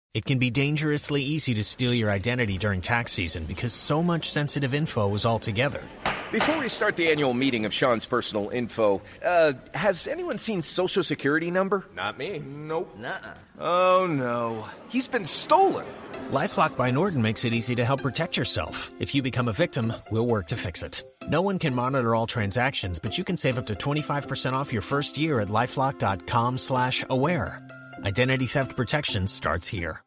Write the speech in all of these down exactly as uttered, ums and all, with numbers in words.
It can be dangerously easy to steal your identity during tax season because so much sensitive info is all together. Before we start the annual meeting of Sean's personal info, uh, has anyone seen Social Security number? Not me. Nope. Nuh-uh. Oh, no. He's been stolen. LifeLock by Norton makes it easy to help protect yourself. If you become a victim, we'll work to fix it. No one can monitor all transactions, but you can save up to twenty-five percent off your first year at LifeLock.com slash aware. Identity theft protection starts here.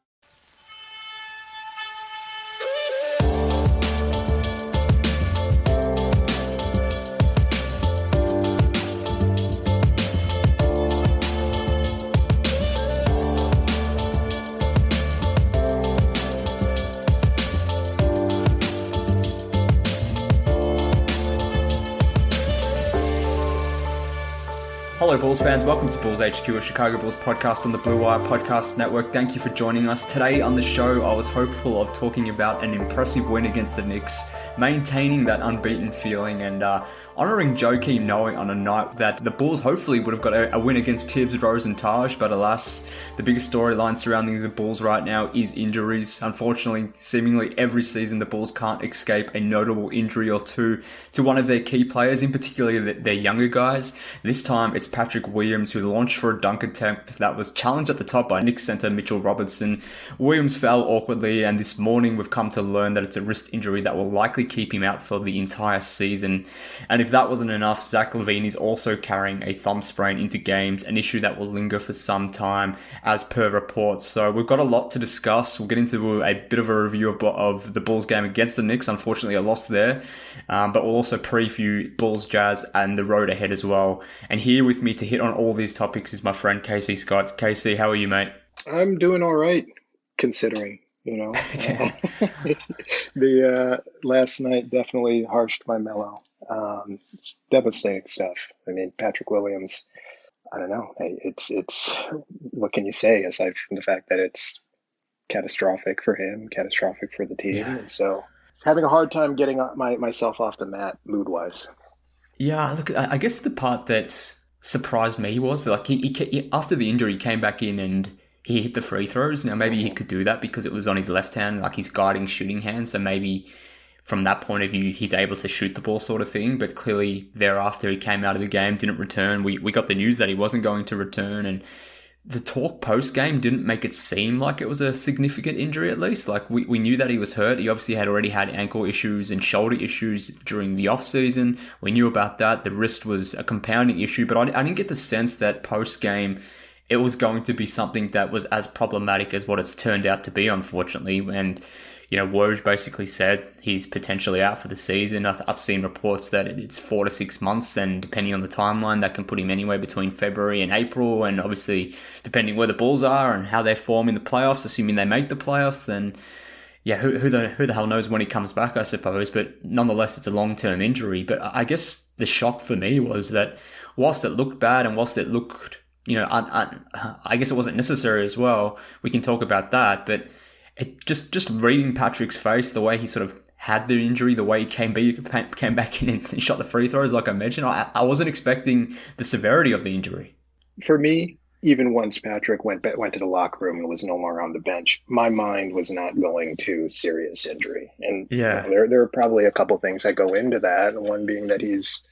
Hello Bulls fans, welcome to Bulls H Q, a Chicago Bulls podcast on the Blue Wire Podcast Network. Thank you for joining us. Today on the show, I was hopeful of talking about an impressive win against the Knicks, maintaining that unbeaten feeling and uh, honouring Joakim Noah on a night that the Bulls hopefully would have got a, a win against Tibbs, Rose and Taj, but alas, the biggest storyline surrounding the Bulls right now is injuries. Unfortunately, seemingly every season the Bulls can't escape a notable injury or two to one of their key players, in particular their younger guys. This time it's Patrick Williams, who launched for a dunk attempt that was challenged at the top by Knicks centre Mitchell Robinson. Williams fell awkwardly, and this morning we've come to learn that it's a wrist injury that will likely keep him out for the entire season. And if that wasn't enough, Zach LaVine is also carrying a thumb sprain into games, an issue that will linger for some time, as per reports. So we've got a lot to discuss. We'll get into a bit of a review of, of the Bulls game against the Knicks. Unfortunately, a loss there. Um, but we'll also preview Bulls Jazz and the road ahead as well. And here with me to hit on all these topics is my friend Casey Scott. Casey, how are you, mate? I'm doing all right, considering, you know. Uh, the uh, last night definitely harshed my mellow. Um, it's devastating stuff. I mean, Patrick Williams, I don't know. It's, it's, what can you say aside from the fact that it's catastrophic for him, catastrophic for the team. Yeah. And so having a hard time getting my, myself off the mat mood-wise. Yeah, look, I guess the part that surprised me was like he, he, he after the injury he came back in and he hit the free throws. Now maybe he could do that because it was on his left hand, like his guiding shooting hand. So maybe from that point of view, he's able to shoot the ball sort of thing. But clearly thereafter he came out of the game, didn't return. We we got the news that he wasn't going to return, and the talk post-game didn't make it seem like it was a significant injury, at least. Like, we, we knew that he was hurt. He obviously had already had ankle issues and shoulder issues during the off-season. We knew about that. The wrist was a compounding issue, but I, I didn't get the sense that post-game it was going to be something that was as problematic as what it's turned out to be, unfortunately. And, you know, Woj basically said he's potentially out for the season. I've seen reports that it's four to six months, and depending on the timeline, that can put him anywhere between February and April. And obviously, depending where the Bulls are and how they form in the playoffs, assuming they make the playoffs, then yeah, who, who the who the hell knows when he comes back, I suppose. But nonetheless, it's a long-term injury. But I guess the shock for me was that whilst it looked bad and whilst it looked, you know, un, un, I guess it wasn't necessary as well. We can talk about that, but it just just reading Patrick's face, the way he sort of had the injury, the way he came, be, came back in and shot the free throws, like I mentioned, I, I wasn't expecting the severity of the injury. For me, even once Patrick went went to the locker room and was no longer on the bench, my mind was not going to serious injury. And yeah, you know, there there are probably a couple things that go into that. One being that he's,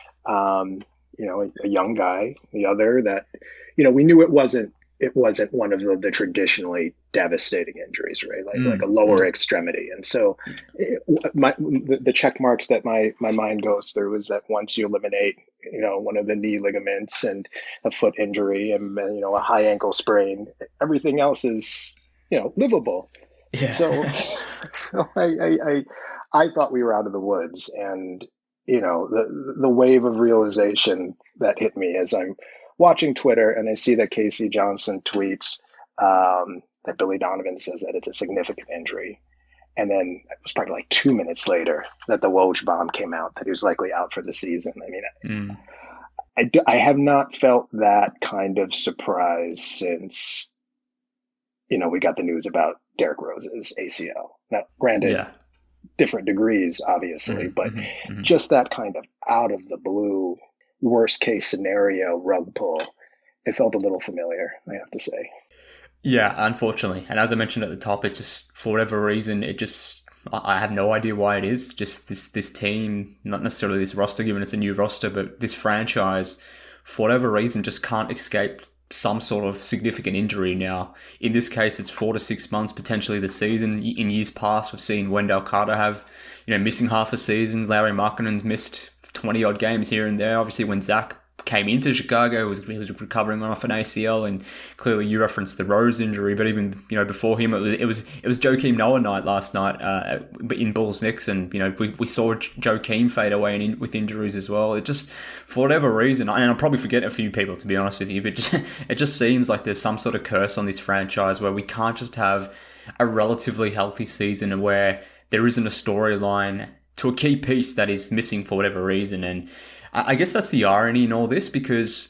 um, you know, a, a young guy. The other that, you know, we knew it wasn't. It wasn't one of the, the traditionally devastating injuries, right? Like mm. like a lower mm. extremity. And so it, my, the, the check marks that my, my mind goes through is that once you eliminate, you know, one of the knee ligaments and a foot injury and, you know, a high ankle sprain, everything else is, you know, livable. Yeah. So, so I, I, I, I thought we were out of the woods, and, you know, the, the wave of realization that hit me as I'm watching Twitter, and I see that Casey Johnson tweets um, that Billy Donovan says that it's a significant injury. And then it was probably like two minutes later that the Woj bomb came out, that he was likely out for the season. I mean, mm. I, do, I have not felt that kind of surprise since, you know, we got the news about Derrick Rose's A C L. Now, granted, yeah. different degrees, obviously, mm-hmm, but mm-hmm. just that kind of out of the blue, worst case scenario rug pull, it felt a little familiar, I have to say. Yeah, unfortunately. And as I mentioned at the top, it just, for whatever reason, it just, I I have no idea why it is. Just this, this team, not necessarily this roster, given it's a new roster, but this franchise, for whatever reason, just can't escape some sort of significant injury now. In this case, it's four to six months, potentially the season. In years past, we've seen Wendell Carter have, you know, missing half a season. Larry Markkanen's missed twenty odd games here and there. Obviously, when Zach came into Chicago, he was, he was recovering off an A C L, and clearly you referenced the Rose injury, but even, you know, before him, it was it was, it was Joakim Noah night last night uh, in Bulls Knicks, and, you know, we, we saw Joakim fade away in, with injuries as well. It just, for whatever reason, and I'm probably forgetting a few people, to be honest with you, but just, it just seems like there's some sort of curse on this franchise where we can't just have a relatively healthy season where there isn't a storyline to a key piece that is missing for whatever reason. And I guess that's the irony in all this, because,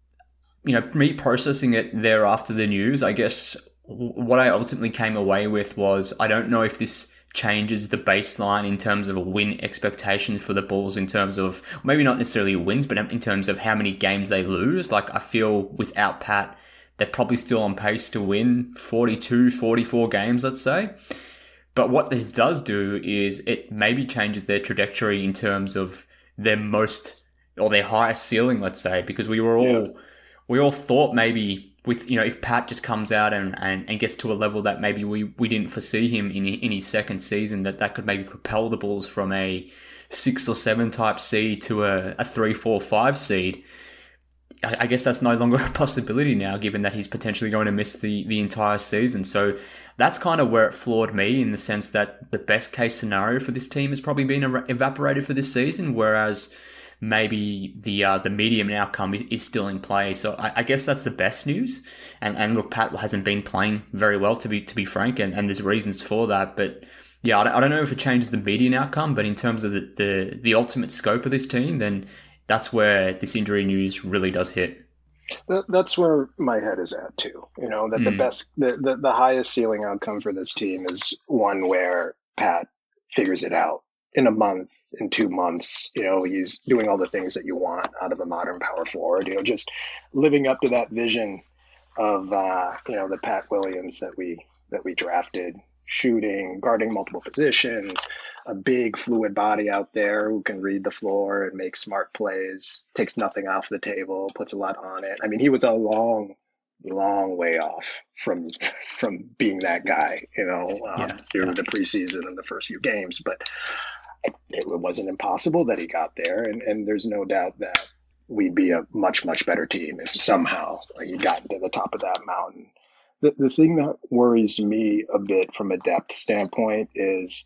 you know, me processing it there after the news, I guess what I ultimately came away with was, I don't know if this changes the baseline in terms of a win expectation for the Bulls, in terms of maybe not necessarily wins, but in terms of how many games they lose. Like, I feel without Pat, they're probably still on pace to win forty-two, forty-four games, let's say. But what this does do is it maybe changes their trajectory in terms of their most, or their highest ceiling, let's say, because we were all, yeah. we all thought maybe with, you know, if Pat just comes out and, and, and gets to a level that maybe we, we didn't foresee him in in his second season, that that could maybe propel the Bulls from a six or seven type seed to a, a three, four, five seed. I, I guess that's no longer a possibility now, given that he's potentially going to miss the, the entire season. So that's kind of where it floored me, in the sense that the best case scenario for this team has probably been evaporated for this season, whereas maybe the uh, the medium outcome is still in play. So I, I guess that's the best news. And and look, Pat hasn't been playing very well, to be to be frank, and, and there's reasons for that. But yeah, I don't know if it changes the median outcome, but in terms of the, the, the ultimate scope of this team, then that's where this injury news really does hit. That, that's where my head is at too. You know, that mm. the best, the, the, the highest ceiling outcome for this team is one where Pat figures it out in a month, in two months. You know, he's doing all the things that you want out of a modern power forward, you know, just living up to that vision of, uh, you know, the Pat Williams that we, that we drafted, shooting, guarding multiple positions, a big fluid body out there who can read the floor and make smart plays, takes nothing off the table, puts a lot on it. I mean, he was a long, long way off from from being that guy, you know, um, yeah, through yeah. the preseason and the first few games. But it, it wasn't impossible that he got there. And, and there's no doubt that we'd be a much, much better team if somehow he got to the top of that mountain. The, the thing that worries me a bit from a depth standpoint is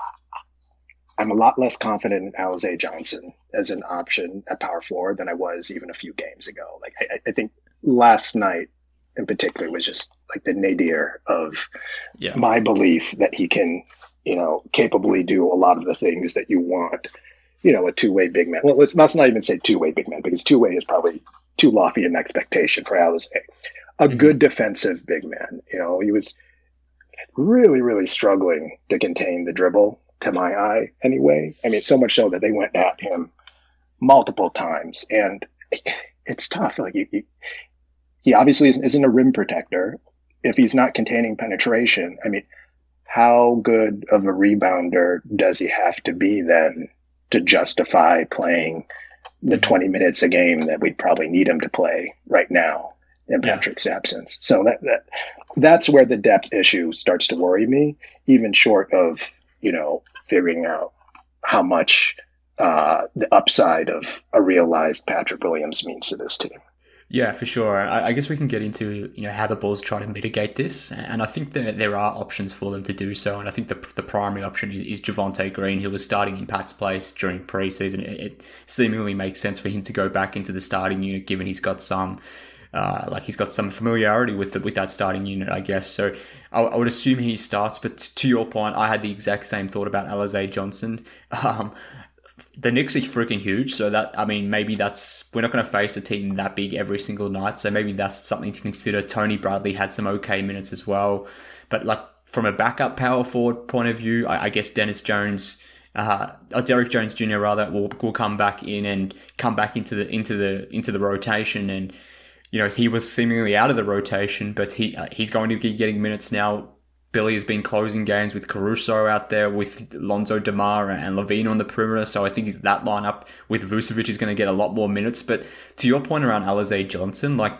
I'm a lot less confident in Alize Johnson as an option at power forward than I was even a few games ago. Like I, I think last night in particular was just like the nadir of yeah. my belief that he can, you know, capably do a lot of the things that you want, you know, a two-way big man. Well, let's, let's not even say two-way big man, because two-way is probably too lofty an expectation for Alize. A mm-hmm. good defensive big man. You know, he was really, really struggling to contain the dribble, to my eye anyway. I mean, so much so that they went at him multiple times, and it's tough. Like you, you, he obviously isn't, isn't a rim protector. If he's not containing penetration, I mean, how good of a rebounder does he have to be then to justify playing the twenty minutes a game that we'd probably need him to play right now in Patrick's yeah. absence? So that that that's where the depth issue starts to worry me, even short of, you know, figuring out how much uh, the upside of a realized Patrick Williams means to this team. Yeah, for sure. I, I guess we can get into, you know, how the Bulls try to mitigate this, and I think that there are options for them to do so. And I think the the primary option is, is Javonte Green, who was starting in Pat's place during preseason. It, it seemingly makes sense for him to go back into the starting unit, given he's got some. Uh, like he's got some familiarity with the, with that starting unit, I guess. So I, I would assume he starts. But t- to your point, I had the exact same thought about Alize Johnson. Um, the Knicks are freaking huge, so that I mean, maybe that's we're not going to face a team that big every single night. So maybe that's something to consider. Tony Bradley had some okay minutes as well, but like from a backup power forward point of view, I, I guess Dennis Jones. Uh, or Derek Jones Junior rather will will come back in and come back into the into the into the rotation and. you know, he was seemingly out of the rotation, but he uh, he's going to be getting minutes now. Billy has been closing games with Caruso out there, with Lonzo DeMar and Levine on the perimeter. So I think that lineup with Vucevic is going to get a lot more minutes. But to your point around Alize Johnson, like,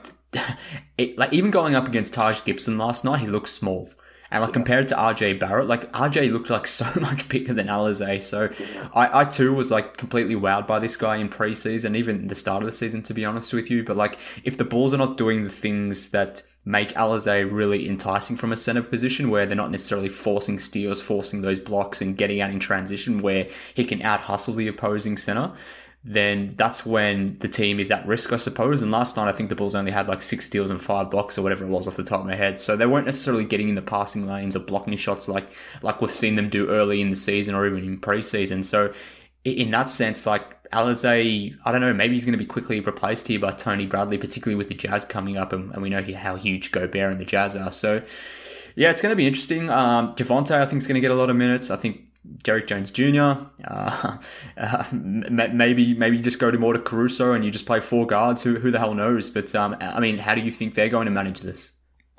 it, like even going up against Taj Gibson last night, he looked small. And like yeah. compared to R J Barrett, like R J looked like so much bigger than Alize. So yeah. I, I too was like completely wowed by this guy in preseason, even the start of the season, to be honest with you. But like if the Bulls are not doing the things that make Alize really enticing from a center position, where they're not necessarily forcing steals, forcing those blocks and getting out in transition where he can out hustle the opposing center, then that's when the team is at risk, I suppose. And last night, I think the Bulls only had like six steals and five blocks or whatever it was off the top of my head. So they weren't necessarily getting in the passing lanes or blocking shots like, like we've seen them do early in the season or even in preseason. So in that sense, like Alize, I don't know, maybe he's going to be quickly replaced here by Tony Bradley, particularly with the Jazz coming up. And, and we know how huge Gobert and the Jazz are. So yeah, it's going to be interesting. Um, Javonte, I think, is going to get a lot of minutes. I think Derrick Jones Junior Uh, uh, maybe maybe just go to more to Caruso and you just play four guards. Who who the hell knows? But um, I mean, how do you think they're going to manage this?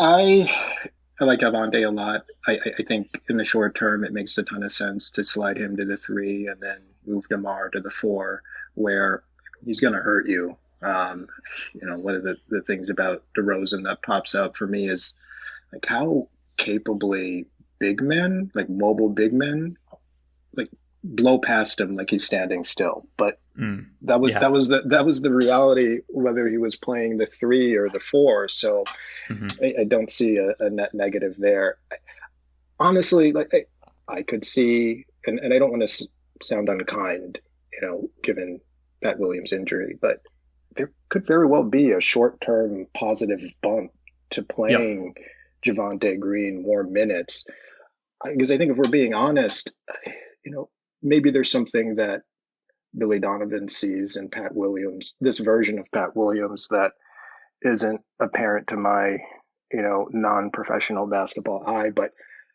I I like Javonte a lot. I, I think in the short term, it makes a ton of sense to slide him to the three and then move DeMar to the four, where he's going to hurt you. Um, you know, one of the, the things about DeRozan that pops up for me is like how capably big men, like mobile big men, like blow past him like he's standing still. But mm, that was yeah. that was the that was the reality, whether he was playing the three or the four. So mm-hmm. I, I don't see a, a net negative there. Honestly, like I, I could see, and, and I don't want to s- sound unkind, you know, given Pat Williams' injury, but there could very well be a short-term positive bump to playing yep. Javonte Green more minutes. Because I think if we're being honest, you know, maybe there's something that Billy Donovan sees in Pat Williams, this version of Pat Williams that isn't apparent to my, you know, non-professional basketball eye. But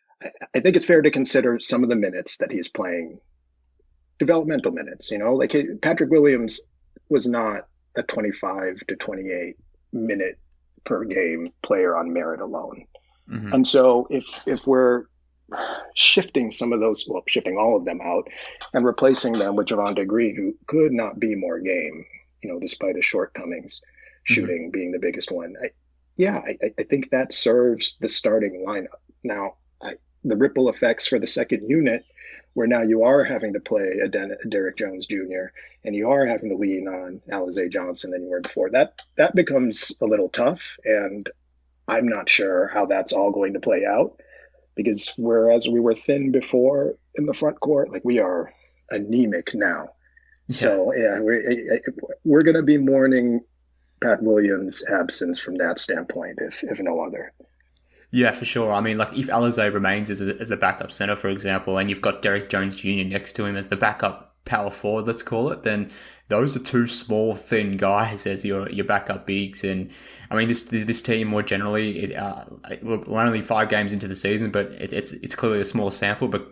I think it's fair to consider some of the minutes that he's playing, developmental minutes, you know, like Patrick Williams was not a twenty-five to twenty-eight minute per game player on merit alone. Mm-hmm. And so if if we're shifting some of those, well, shifting all of them out and replacing them with Javonte Green, who could not be more game, you know, despite his shortcomings, shooting mm-hmm. being the biggest one. I, yeah, I, I think that serves the starting lineup. Now, I, the ripple effects for the second unit, where now you are having to play a, Den- a Derrick Jones Junior and you are having to lean on Alize Johnson than you were before. That that becomes a little tough, and I'm not sure how that's all going to play out. Because whereas we were thin before in the front court, like we are anemic now. Yeah. So yeah, we're we're going to be mourning Pat Williams' absence from that standpoint, if if no other. Yeah, for sure. I mean, like if Alize remains as a, as a backup center, for example, and you've got Derrick Jones Junior next to him as the backup power forward, let's call it, then those are two small, thin guys as your your backup bigs. And I mean, this this team more generally, it, uh, we're only five games into the season, but it, it's it's clearly a small sample. But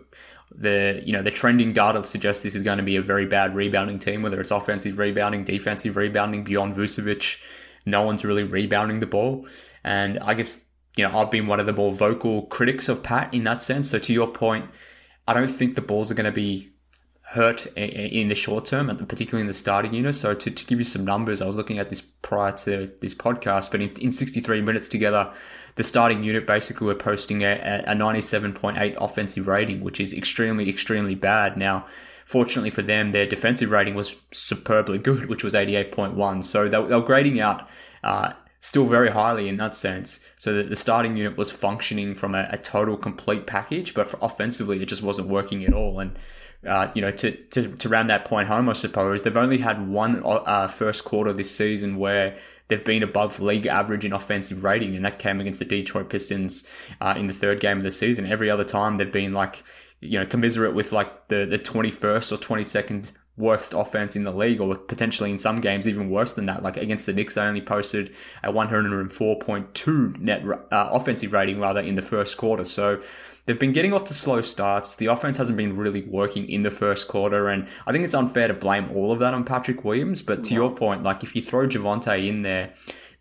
the you know the trending data suggests this is going to be a very bad rebounding team, whether it's offensive rebounding, defensive rebounding. Beyond Vucevic, no one's really rebounding the ball. And I guess, you know, I've been one of the more vocal critics of Pat in that sense. So to your point, I don't think the Bulls are going to be hurt in the short term, and particularly in the starting unit. So to, to give you some numbers, I was looking at this prior to this podcast, but in, in sixty-three minutes together, the starting unit basically were posting a, a ninety-seven point eight offensive rating, which is extremely, extremely bad. Now, fortunately for them, their defensive rating was superbly good, which was eighty-eight point one. So they, they were grading out uh, still very highly in that sense. So that the starting unit was functioning from a, a total complete package, but for offensively, it just wasn't working at all. And Uh, you know, to, to, to round that point home, I suppose, they've only had one uh, first quarter this season where they've been above league average in offensive rating, and that came against the Detroit Pistons uh, in the third game of the season. Every other time they've been like, you know, commiserate with like the, the twenty-first or twenty-second worst offense in the league, or potentially in some games even worse than that. Like against the Knicks, they only posted a one oh four point two net uh, offensive rating rather in the first quarter. So they've been getting off to slow starts. The offense hasn't been really working in the first quarter, and I think it's unfair to blame all of that on Patrick Williams. But to no. your point, like if you throw Javonte in there,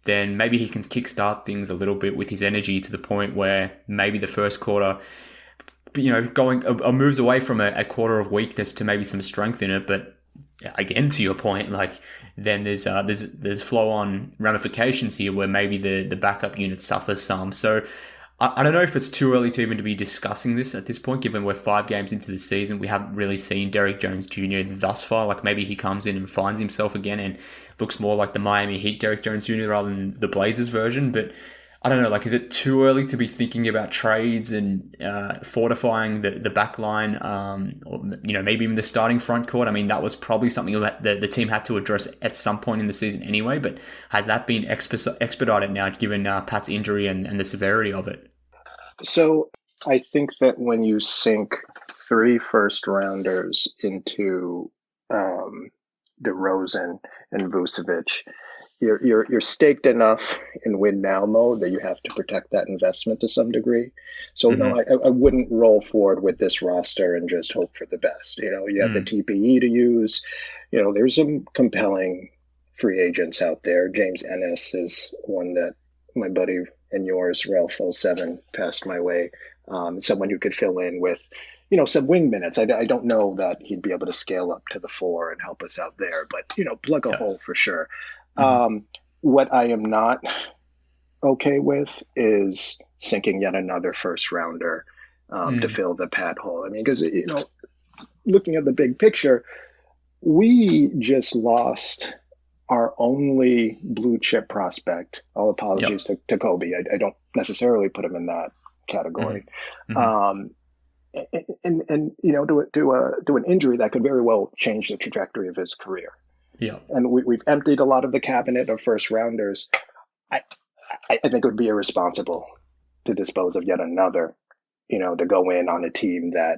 then maybe he can kickstart things a little bit with his energy to the point where maybe the first quarter, you know, going a, a moves away from a, a quarter of weakness to maybe some strength in it. But again, to your point, like then there's uh, there's there's flow on ramifications here where maybe the the backup unit suffers some. So I, I don't know if it's too early to even to be discussing this at this point, given we're five games into the season. We haven't really seen Derrick Jones Junior thus far. Like maybe he comes in and finds himself again and looks more like the Miami Heat Derrick Jones Junior rather than the Blazers version. But I don't know, like, is it too early to be thinking about trades and uh, fortifying the, the back line, um, or, you know, maybe even the starting front court? I mean, that was probably something that the, the team had to address at some point in the season anyway, but has that been exp- expedited now given uh, Pat's injury and, and the severity of it? So I think that when you sink three first rounders into um, DeRozan and Vucevic, You're, you're you're staked enough in win now mode that you have to protect that investment to some degree. So mm-hmm. no, I, I wouldn't roll forward with this roster and just hope for the best. You know, you have mm. the T P E to use. You know, there's some compelling free agents out there. James Ennis is one that my buddy and yours, Ralph oh seven, passed my way. Um, someone who could fill in with, you know, some wing minutes. I, I don't know that he'd be able to scale up to the four and help us out there, but, you know, plug a yeah. hole for sure. Um, what I am not okay with is sinking yet another first rounder um, mm. to fill the Pat hole. I mean, because, you know, looking at the big picture, we just lost our only blue chip prospect. All apologies yep. to, to Kobe. I, I don't necessarily put him in that category. Mm-hmm. Um, and, and, and, you know, to, to, a, to an injury that could very well change the trajectory of his career. Yeah, and we, we've emptied a lot of the cabinet of first rounders. I, I, I think it would be irresponsible to dispose of yet another, you know, to go in on a team that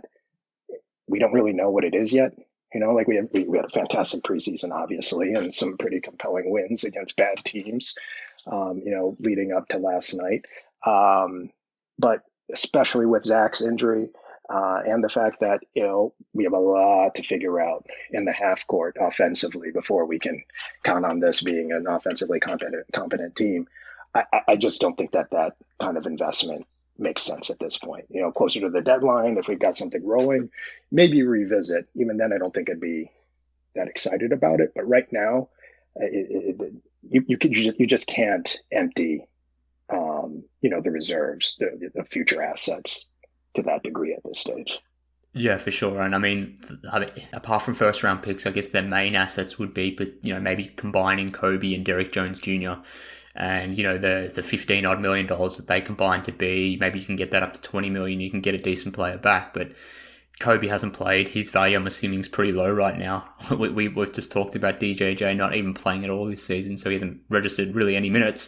we don't really know what it is yet. You know, like we have, we, we had a fantastic preseason, obviously, and some pretty compelling wins against bad teams, um, you know, leading up to last night. Um, but especially with Zach's injury, Uh, and the fact that, you know, we have a lot to figure out in the half court offensively before we can count on this being an offensively competent, competent team. I, I just don't think that that kind of investment makes sense at this point. You know, closer to the deadline, if we've got something rolling, maybe revisit. Even then, I don't think I'd be that excited about it. But right now, it, it, it, you you, can, you, just, you just can't empty, um, you know, the reserves, the, the future assets to that degree at this stage. Yeah, for sure. And I mean, I mean, apart from first round picks, I guess their main assets would be, but you know, maybe combining Kobe and Derrick Jones Junior and, you know, the the fifteen odd million dollars that they combine to be, maybe you can get that up to twenty million, you can get a decent player back. But Kobe hasn't played. His value, I'm assuming, is pretty low right now. we, we, we've just talked about D J J not even playing at all this season, so he hasn't registered really any minutes.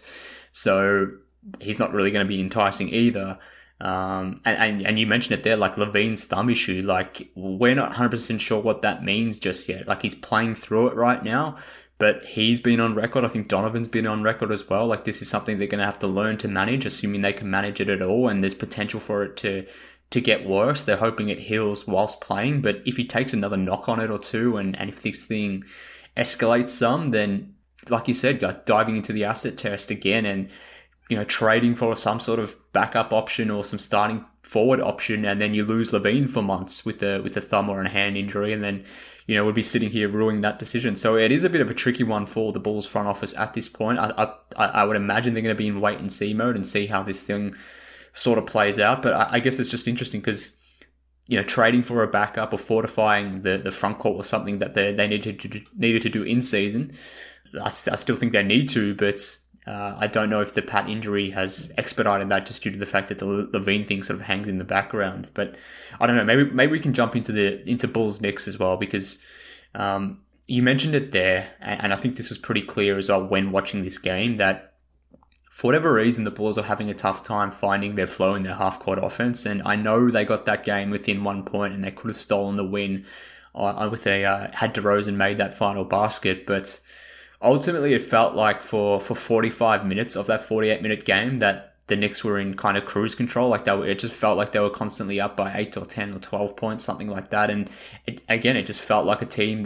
So he's not really going to be enticing either. Um, and, and, and you mentioned it there, like Levine's thumb issue, like we're not one hundred percent sure what that means just yet. Like he's playing through it right now, but he's been on record. I think Donovan's been on record as well. Like this is something they're going to have to learn to manage, assuming they can manage it at all. And there's potential for it to, to get worse. They're hoping it heals whilst playing, but if he takes another knock on it or two, and, and if this thing escalates some, then like you said, like diving into the asset test again and, you know, trading for some sort of backup option or some starting forward option, and then you lose Levine for months with a with a thumb or a hand injury, and then, you know, we'd be sitting here ruining that decision. So it is a bit of a tricky one for the Bulls front office at this point. I I, I would imagine they're going to be in wait and see mode and see how this thing sort of plays out. But I, I guess it's just interesting because, you know, trading for a backup or fortifying the, the front court was something that they they needed to do, needed to do in season. I, I still think they need to, but Uh, I don't know if the Pat injury has expedited that just due to the fact that the Levine thing sort of hangs in the background. But I don't know. Maybe maybe we can jump into the into Bulls Knicks as well, because um, you mentioned it there, and, and I think this was pretty clear as well when watching this game that for whatever reason the Bulls are having a tough time finding their flow in their half court offense. And I know they got that game within one point, and they could have stolen the win uh, with a uh, had DeRozan made that final basket, but ultimately, it felt like for, for forty-five minutes of that forty-eight minute game that the Knicks were in kind of cruise control. Like they were, it just felt like they were constantly up by eight or ten or twelve points, something like that. And it, again, it just felt like a team that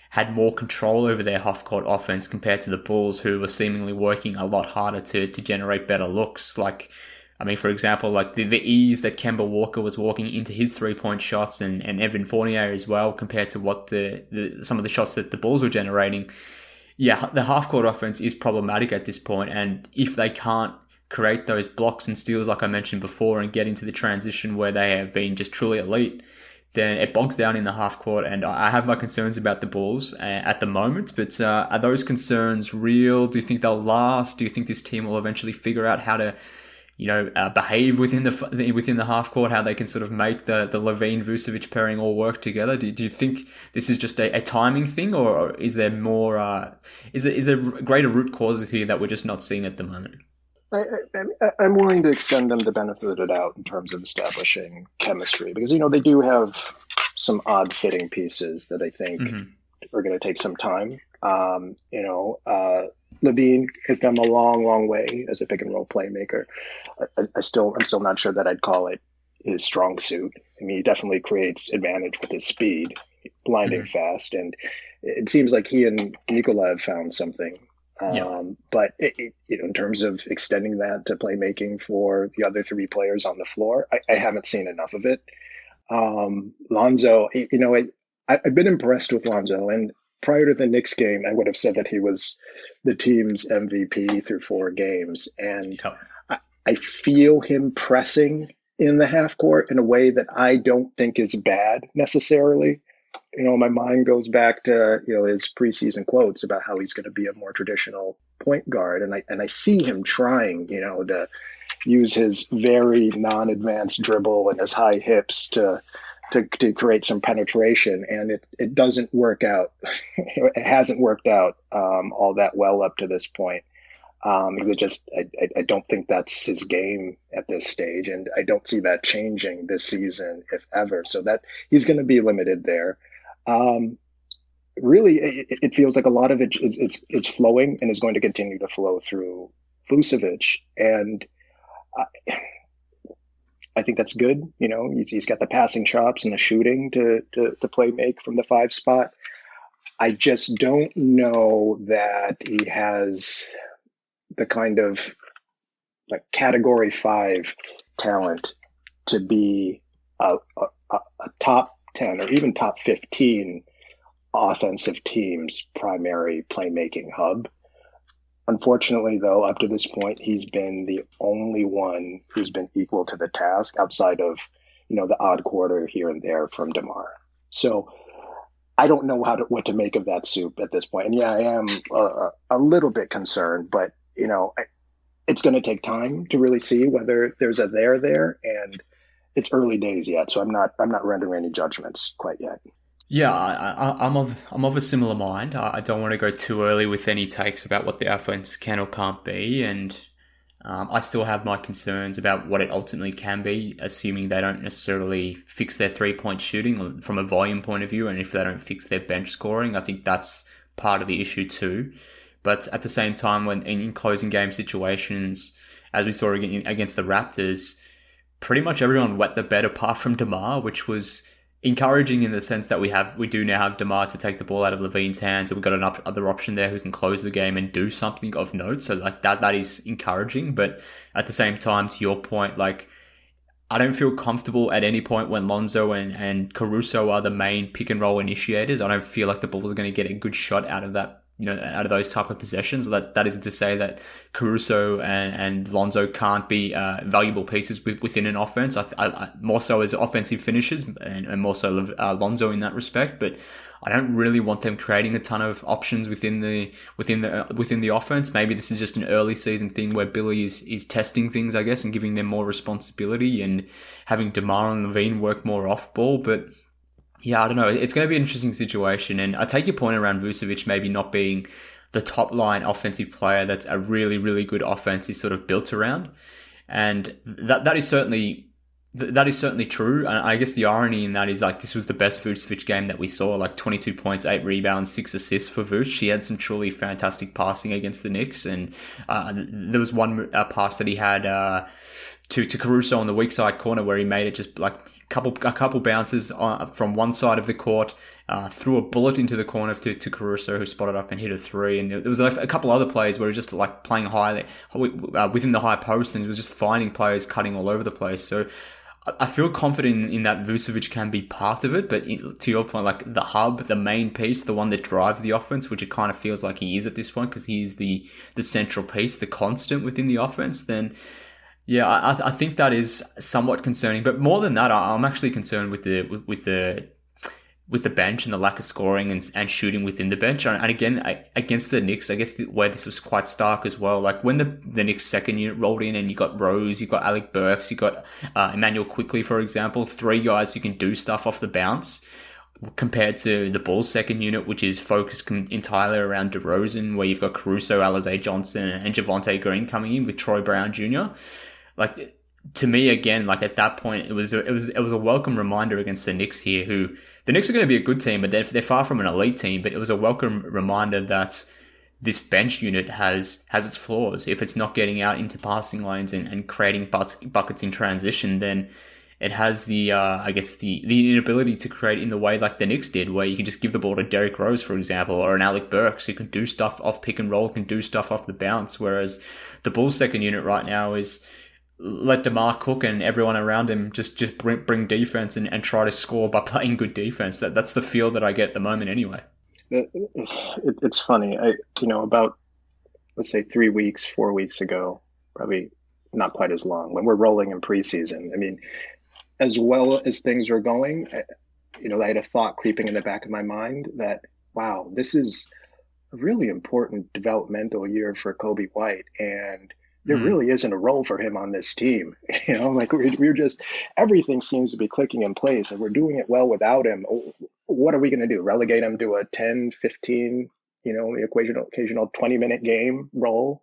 had more control over their half-court offense compared to the Bulls, who were seemingly working a lot harder to to generate better looks. Like, I mean, for example, like the, the ease that Kemba Walker was walking into his three-point shots, and, and Evan Fournier as well, compared to what the, the some of the shots that the Bulls were generating. Yeah, the half-court offense is problematic at this point, and if they can't create those blocks and steals like I mentioned before and get into the transition where they have been just truly elite, then it bogs down in the half court. And I have my concerns about the Bulls at the moment, but uh, are those concerns real? Do you think they'll last? Do you think this team will eventually figure out how to, you know, uh, behave within the within the half court, how they can sort of make the, the Levine-Vucevic pairing all work together? Do, do you think this is just a, a timing thing, or is there more, uh, is there, is there greater root causes here that we're just not seeing at the moment? I, I, I'm willing to extend them the benefit of the doubt in terms of establishing chemistry, because, you know, they do have some odd fitting pieces that I think mm-hmm. are going to take some time. Um, you know, uh, Levine has come a long, long way as a pick and roll playmaker. I, I still, I'm still not sure that I'd call it his strong suit. I mean, he definitely creates advantage with his speed, blinding mm-hmm. fast, and it seems like he and Nikola have found something. Um, yeah. But it, it, you know, in terms of extending that to playmaking for the other three players on the floor, I, I haven't seen enough of it. Um, Lonzo, you know, I, I've been impressed with Lonzo, and prior to the Knicks game, I would have said that he was the team's M V P through four games. And yeah. I, I feel him pressing in the half court in a way that I don't think is bad necessarily. You know, my mind goes back to, you know, his preseason quotes about how he's going to be a more traditional point guard. And I, and I see him trying, you know, to use his very non-advanced dribble and his high hips to, to, to create some penetration. And it, it doesn't work out. It hasn't worked out um, all that well up to this point. Um, because it just, I, I don't think that's his game at this stage. And I don't see that changing this season, if ever. So that he's going to be limited there. Um, really, it, it feels like a lot of it is it's, it's flowing and is going to continue to flow through Vucevic. And I, I think that's good. You know, he's, he's got the passing chops and the shooting to, to, to play make from the five spot. I just don't know that he has the kind of like category five talent to be a, a, a top ten or even top fifteen offensive team's primary playmaking hub. Unfortunately, though, up to this point, he's been the only one who's been equal to the task outside of, you know, the odd quarter here and there from DeMar. So I don't know how to, what to make of that soup at this point. And yeah, I am uh, a little bit concerned, but, you know, it's going to take time to really see whether there's a there there, and it's early days yet, so I'm not I'm not rendering any judgments quite yet. Yeah, I, I, I'm of I'm of a similar mind. I, I don't want to go too early with any takes about what the offense can or can't be, and um, I still have my concerns about what it ultimately can be, assuming they don't necessarily fix their three-point shooting from a volume point of view, and if they don't fix their bench scoring, I think that's part of the issue too. But at the same time, when in closing game situations, as we saw against the Raptors, pretty much everyone wet the bed apart from DeMar, which was encouraging in the sense that we have we do now have DeMar to take the ball out of Levine's hands, and we've got another option there who can close the game and do something of note. So like that that is encouraging. But at the same time, to your point, like I don't feel comfortable at any point when Lonzo and, and Caruso are the main pick and roll initiators. I don't feel like the Bulls are going to get a good shot out of that, you know, out of those type of possessions. That that isn't to say that Caruso and, and Lonzo can't be uh, valuable pieces with, within an offense. I, I, more so as offensive finishers, and, and more so uh, Lonzo in that respect. But I don't really want them creating a ton of options within the within the uh, within the offense. Maybe this is just an early season thing where Billy is is testing things, I guess, and giving them more responsibility and having DeMar and Levine work more off ball, but. Yeah, I don't know. It's going to be an interesting situation. And I take your point around Vucevic maybe not being the top line offensive player that's a really, really good offense is sort of built around. And that that is certainly that is certainly true. And I guess the irony in that is like this was the best Vucevic game that we saw, like twenty-two points, eight rebounds, six assists for Vuce. He had some truly fantastic passing against the Knicks. And uh, there was one uh, pass that he had uh, to, to Caruso on the weak side corner where he made it just like a couple, a couple bounces on, from one side of the court, uh, threw a bullet into the corner to, to Caruso, who spotted up and hit a three. And there was like a couple other plays where he was just like playing high, uh, within the high post, and he was just finding players cutting all over the place. So I feel confident in that Vucevic can be part of it, but to your point, like the hub, the main piece, the one that drives the offense, which it kind of feels like he is at this point because he's the the central piece, the constant within the offense, then yeah, I, I think that is somewhat concerning. But more than that, I'm actually concerned with the with, with the with the bench and the lack of scoring and, and shooting within the bench. And again, I, against the Knicks, I guess the, where this was quite stark as well. Like when the, the Knicks second unit rolled in and you got Rose, you got Alec Burks, you got uh, Emmanuel Quickley, for example, three guys who can do stuff off the bounce, compared to the Bulls second unit, which is focused entirely around DeRozan, where you've got Caruso, Alize Johnson, and Javonte Green coming in with Troy Brown Junior Like, to me, again, like at that point, it was a, it was it was a welcome reminder against the Knicks here, who the Knicks are going to be a good team, but they're, they're far from an elite team. But it was a welcome reminder that this bench unit has has its flaws. If it's not getting out into passing lanes and, and creating but, buckets in transition, then it has the uh, I guess the the inability to create in the way like the Knicks did, where you can just give the ball to Derrick Rose, for example, or an Alec Burks who can do stuff off pick and roll, can do stuff off the bounce. Whereas the Bulls second unit right now is let DeMar cook and everyone around him just, just bring, bring defense and, and try to score by playing good defense. That That's the feel that I get at the moment anyway. It, it, it's funny. I, you know, about, let's say three weeks, four weeks ago, probably not quite as long, when we're rolling in preseason. I mean, as well as things are going, you know, I had a thought creeping in the back of my mind that, wow, this is a really important developmental year for Coby White. And there really isn't a role for him on this team. You know, like we're, we're just, everything seems to be clicking in place and we're doing it well without him. What are we going to do? Relegate him to a ten, fifteen, you know, the occasional, occasional twenty minute game role.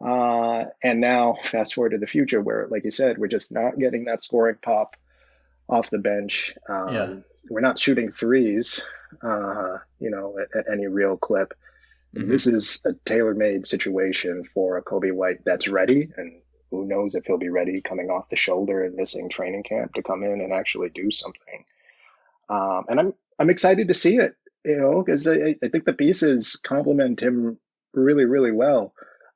Uh, and now fast forward to the future where, like you said, we're just not getting that scoring pop off the bench. Um, yeah. We're not shooting threes, uh, you know, at, at any real clip. Mm-hmm. This is a tailor-made situation for a Coby White that's ready, and who knows if he'll be ready coming off the shoulder and missing training camp to come in and actually do something. Um, and I'm I'm excited to see it, you know, because I, I think the pieces complement him really, really well.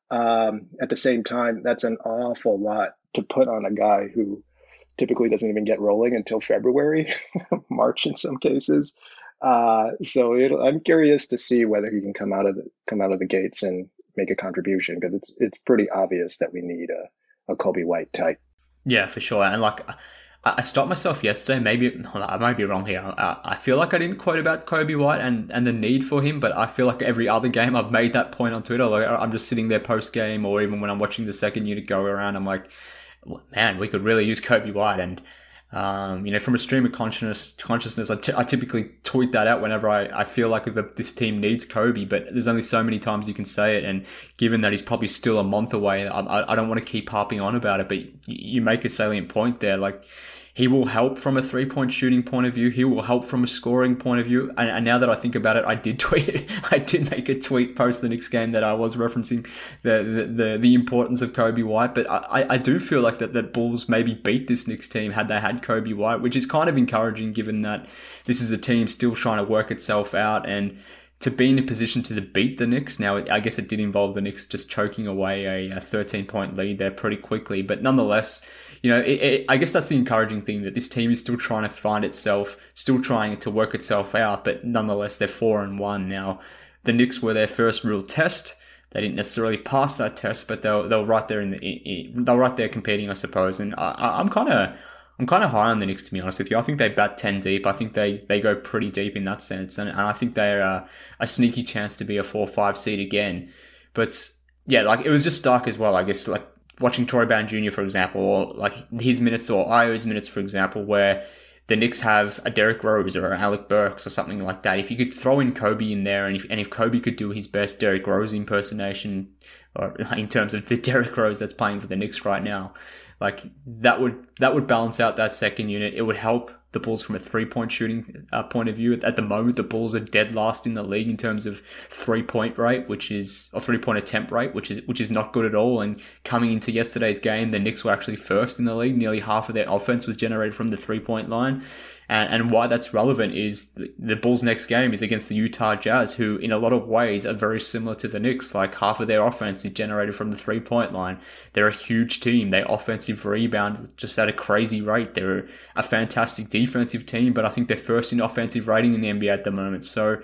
Um, at the same time, that's an awful lot to put on a guy who typically doesn't even get rolling until February, March in some cases. Uh, so it, I'm curious to see whether he can come out of the come out of the gates and make a contribution, because it's it's pretty obvious that we need a, a Coby White type. Yeah, for sure. And like, I, I stopped myself yesterday. Maybe I might be wrong here. I, I feel like I didn't quote about Coby White and, and the need for him, but I feel like every other game I've made that point on Twitter. Like I'm just sitting there post game, or even when I'm watching the second unit go around, I'm like, man, we could really use Coby White. And Um, you know, from a stream of consciousness, consciousness, I, t- I typically tweet that out whenever I, I feel like the, this team needs Coby, but there's only so many times you can say it. And given that he's probably still a month away, I, I, I don't want to keep harping on about it, but you, you make a salient point there. Like, he will help from a three-point shooting point of view. He will help from a scoring point of view. And, and now that I think about it, I did tweet it. I did make a tweet post the Knicks game that I was referencing the the the, the importance of Coby White. But I, I do feel like that the Bulls maybe beat this Knicks team had they had Coby White, which is kind of encouraging given that this is a team still trying to work itself out. And to be in a position to beat the Knicks, now I guess it did involve the Knicks just choking away a thirteen-point lead there pretty quickly. But nonetheless, you know, it, it, I guess that's the encouraging thing, that this team is still trying to find itself, still trying to work itself out, but nonetheless, they're four and one now. The Knicks were their first real test. They didn't necessarily pass that test, but they'll they'll right there in the they'll right there competing, I suppose. And I, I'm kind of I'm kind of high on the Knicks, to be honest with you. I think they bat ten deep. I think they, they go pretty deep in that sense, and, and I think they're a, a sneaky chance to be a four five seed again. But yeah, like it was just stark as well, I guess, like watching Troy Brown Junior, for example, or like his minutes, or Io's minutes, for example, where the Knicks have a Derrick Rose or an Alec Burks or something like that. If you could throw in Coby in there, and if and if Coby could do his best Derrick Rose impersonation, or in terms of the Derrick Rose that's playing for the Knicks right now, like that would that would balance out that second unit. It would help the Bulls from a three-point shooting uh, point of view. At, at the moment, the Bulls are dead last in the league in terms of three-point rate, which is or three-point attempt rate, which is which is not good at all. And coming into yesterday's game, the Knicks were actually first in the league. Nearly half of their offense was generated from the three-point line. And, and why that's relevant is the, the Bulls' next game is against the Utah Jazz, who in a lot of ways are very similar to the Knicks. Like half of their offense is generated from the three-point line. They're a huge team. They offensive rebound just at a crazy rate. They're a fantastic defensive team, but I think they're first in offensive rating in the N B A at the moment. So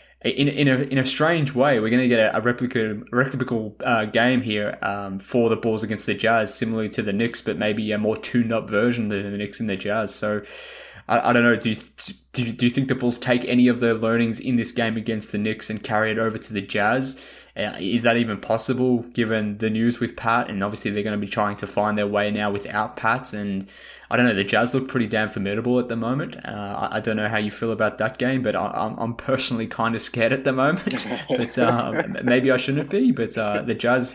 in in a in a strange way, we're going to get a, a replicable replicable uh, game here um, for the Bulls against the Jazz, similarly to the Knicks, but maybe a more tuned-up version than the Knicks and the Jazz. So I, I don't know. Do you, do you do you think the Bulls take any of the learnings in this game against the Knicks and carry it over to the Jazz? Uh, is that even possible given the news with Pat? And obviously they're going to be trying to find their way now without Pat. And I don't know, the Jazz look pretty damn formidable at the moment. Uh, I, I don't know how you feel about that game, but I, I'm, I'm personally kind of scared at the moment. But uh, maybe I shouldn't be. But uh, the Jazz,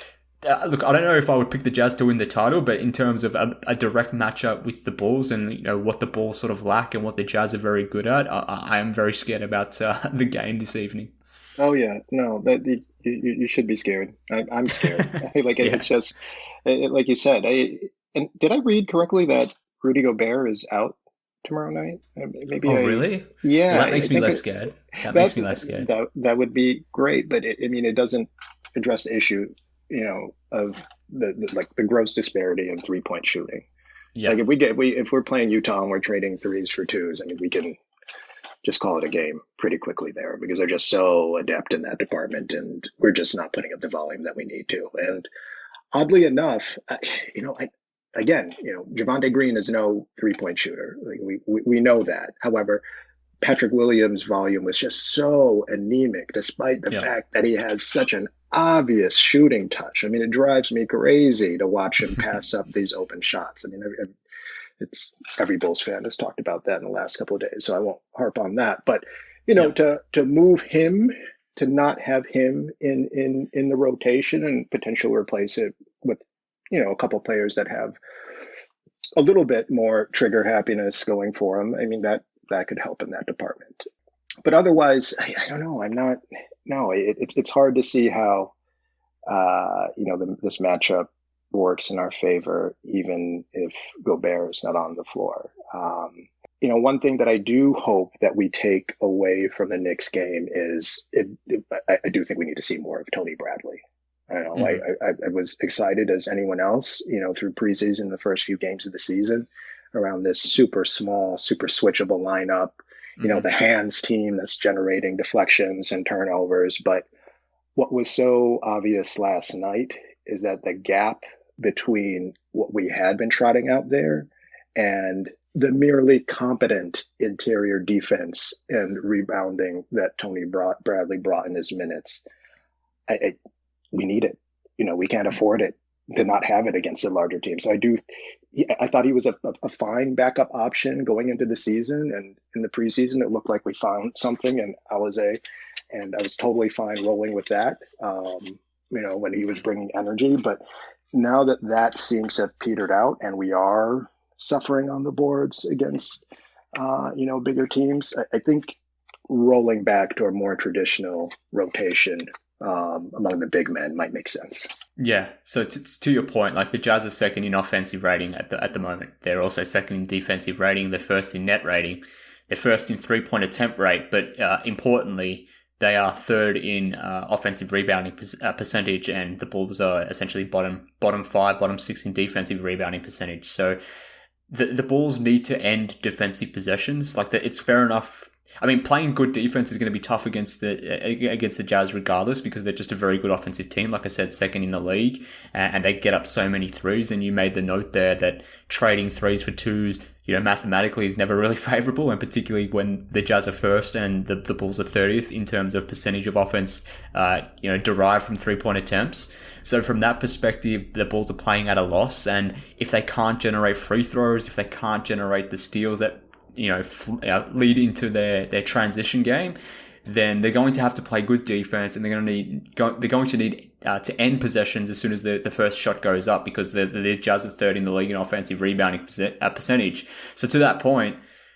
uh, look, I don't know if I would pick the Jazz to win the title, but in terms of a, a direct matchup with the Bulls and you know what the Bulls sort of lack and what the Jazz are very good at, I, I am very scared about uh, the game this evening. Oh yeah, no, that you, you should be scared. I, I'm scared. like it, yeah. It's just it, like you said. I, and did I read correctly that Rudy Gobert is out tomorrow night? Maybe. Oh I, yeah. Well, that makes I me less it, scared. That, that makes me less scared. That that would be great, but it, I mean, it doesn't address the issue, you know, of the, the like the gross disparity in three point shooting. Yeah. Like if we get we if we're playing Utah and we're trading threes for twos, I mean, we can just call it a game pretty quickly there because they're just so adept in that department, and we're just not putting up the volume that we need to. And oddly enough, you know, I, again, you know, Javonte Green is no three-point shooter. Like we, we we know that. However, Patrick Williams' volume was just so anemic, despite the yeah. fact that he has such an obvious shooting touch. I mean, it drives me crazy to watch him pass up these open shots. I mean, every, it's every Bulls fan has talked about that in the last couple of days, so I won't harp on that. But you know, yeah. to to move him, to not have him in in in the rotation and potentially replace it with, you know, a couple of players that have a little bit more trigger happiness going for them. I mean, that that could help in that department. But otherwise, I, I don't know. I'm not. No, it, it's it's hard to see how uh, you know the, this matchup works in our favor, even if Gobert is not on the floor. Um, you know, one thing that I do hope that we take away from the Knicks game is it, it, I, I do think we need to see more of Tony Bradley. I don't know. Mm-hmm. I, I, I was excited as anyone else, you know, through preseason, the first few games of the season, around this super small, super switchable lineup. You mm-hmm. know, the hands team that's generating deflections and turnovers. But what was so obvious last night is that the gap between what we had been trotting out there and the merely competent interior defense and rebounding that Tony brought, Bradley brought in his minutes, I, I, we need it. You know, we can't afford it to not have it against the larger teams. So I do, I thought he was a, a fine backup option going into the season, and in the preseason, it looked like we found something in Alizé, and I was totally fine rolling with that, um, you know, when he was bringing energy. But now that that seems to have petered out and we are suffering on the boards against, uh, you know, bigger teams, I, I think rolling back to a more traditional rotation um, among the big men might make sense. Yeah. So to, to your point, like the Jazz are second in offensive rating at the at the moment. They're also second in defensive rating. They're first in net rating. They're first in three-point attempt rate. But uh, importantly, they are third in uh, offensive rebounding per- uh, percentage, and the Bulls are essentially bottom bottom five, bottom six in defensive rebounding percentage. So the the Bulls need to end defensive possessions. Like the, it's fair enough. I mean, playing good defense is going to be tough against the against the Jazz regardless, because they're just a very good offensive team. Like I said, second in the league, and they get up so many threes. And you made the note there that trading threes for twos, you know, mathematically is never really favorable, and particularly when the Jazz are first and the, the Bulls are thirtieth in terms of percentage of offense, uh, you know, derived from three-point attempts. So from that perspective, the Bulls are playing at a loss, and if they can't generate free throws, if they can't generate the steals that, you know, fl- uh, lead into their, their transition game, then they're going to have to play good defense, and they're going to need go, they're going to need uh, to end possessions as soon as the, the first shot goes up, because the, the Jazz are third in the league in offensive rebounding percent, uh, percentage. So to that point,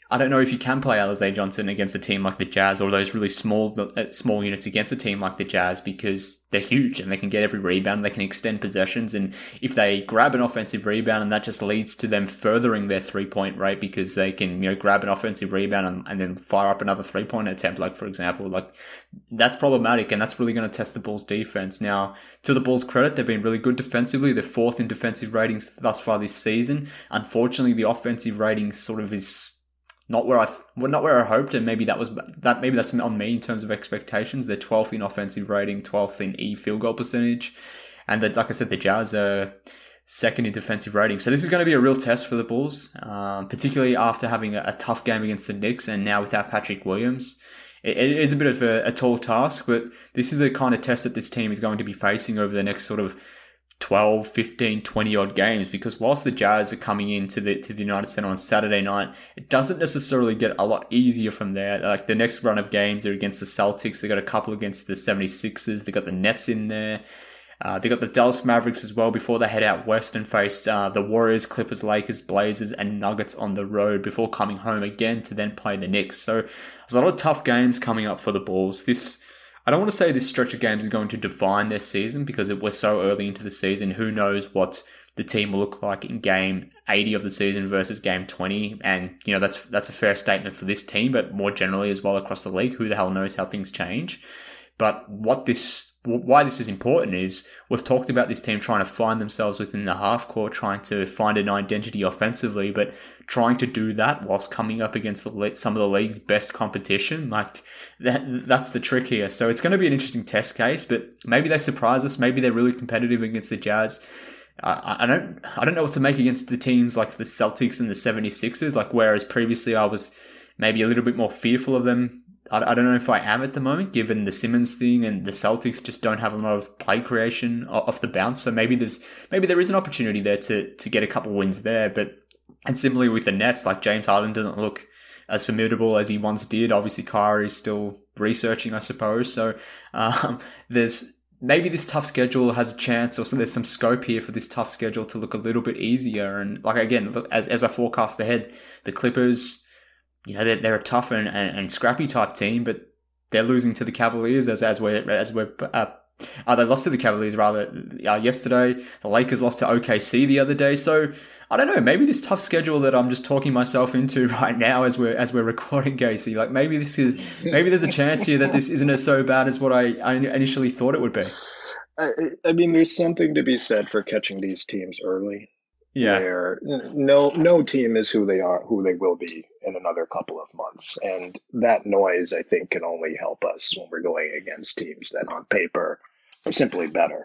I don't know if you can play Alize Johnson against a team like the Jazz or those really small uh, small units against a team like the Jazz because they're huge and they can get every rebound, they can extend possessions, and if they grab an offensive rebound and that just leads to them furthering their three-point rate because they can, you know, grab an offensive rebound and, and then fire up another three-point attempt, like for example, like that's problematic and that's really going to test the Bulls' defense. Now, to the Bulls' credit, they've been really good defensively. They're fourth in defensive ratings thus far this season. Unfortunately, the offensive rating sort of is Not where I, well, not where I hoped, and maybe that was that. Maybe that's on me in terms of expectations. They're twelfth in offensive rating, twelfth in E field goal percentage, and the, like I said, the Jazz are second in defensive rating. So this is going to be a real test for the Bulls, um, particularly after having a, a tough game against the Knicks, and now without Patrick Williams. It, it is a bit of a, a tall task, but this is the kind of test that this team is going to be facing over the next sort of twelve, fifteen, twenty odd games, because whilst the Jazz are coming into the to the United Center on Saturday night, it doesn't necessarily get a lot easier from there. Like the next run of games are against the Celtics. They got a couple against the seventy-sixers. They got the Nets in there. Uh, they got the Dallas Mavericks as well before they head out west and face uh, the Warriors, Clippers, Lakers, Blazers, and Nuggets on the road before coming home again to then play the Knicks. So there's a lot of tough games coming up for the Bulls. This I don't want to say this stretch of games is going to define their season because we're so early into the season. Who knows what the team will look like in game eighty of the season versus game twenty. And, you know, that's that's a fair statement for this team, but more generally as well across the league. Who the hell knows how things change? But what this, why this is important is we've talked about this team trying to find themselves within the half court, trying to find an identity offensively, but trying to do that whilst coming up against the, some of the league's best competition. Like that, that's the trick here. So it's going to be an interesting test case, but maybe they surprise us. Maybe they're really competitive against the Jazz. I, I don't, I don't know what to make against the teams like the Celtics and the seventy-sixers. Like whereas previously I was maybe a little bit more fearful of them. I don't know if I am at the moment, given the Simmons thing and the Celtics just don't have a lot of play creation off the bounce. So maybe there's maybe there is an opportunity there to to get a couple wins there. But and similarly with the Nets, like James Harden doesn't look as formidable as he once did. Obviously, Kyrie is still researching, I suppose. So um, there's maybe this tough schedule has a chance, or so there's some scope here for this tough schedule to look a little bit easier. And like again, as as I forecast ahead, the Clippers, you know, they're, they're a tough and, and, and scrappy type team, but they're losing to the Cavaliers as as we're as we're uh, uh, they lost to the Cavaliers rather uh, yesterday. The Lakers lost to O K C the other day. So I don't know. Maybe this tough schedule that I'm just talking myself into right now as we're as we're recording, Casey. Like maybe this is maybe there's a chance here that this isn't as so bad as what I, I initially thought it would be. I, I mean, there's something to be said for catching these teams early. Yeah. Where no no team is who they are, who they will be in another couple of months. And that noise, I think, can only help us when we're going against teams that on paper are simply better.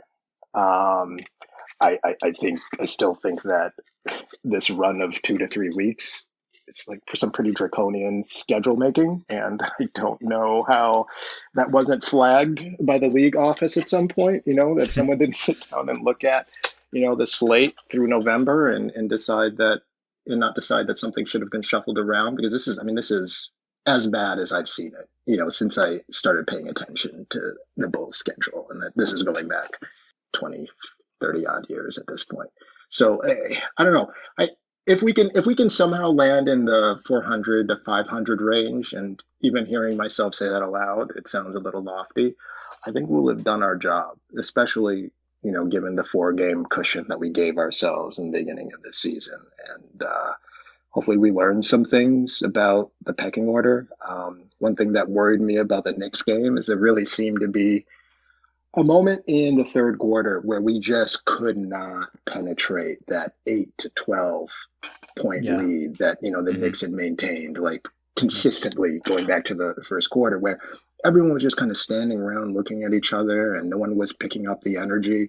Um, I, I, I think I still think that this run of two to three weeks, it's like for some pretty draconian schedule making. And I don't know how that wasn't flagged by the league office at some point, you know, that someone didn't sit down and look at, you know, the slate through November and, and decide that, and not decide that something should have been shuffled around, because this is, I mean, this is as bad as I've seen it, you know, since I started paying attention to the Bulls schedule. And that this is going back twenty, thirty odd years at this point. So I, I don't know. I, if we can, if we can somehow land in the four hundred to five hundred range, and even hearing myself say that aloud, it sounds a little lofty. I think we'll have done our job, especially, you know, given the four game cushion that we gave ourselves in the beginning of the season. And uh, hopefully we learned some things about the pecking order. Um, one thing that worried me about the Knicks game is it really seemed to be a moment in the third quarter where we just could not penetrate that eight to twelve point yeah. lead that, you know, the mm-hmm. Knicks had maintained like consistently going back to the first quarter, where everyone was just kind of standing around looking at each other and no one was picking up the energy.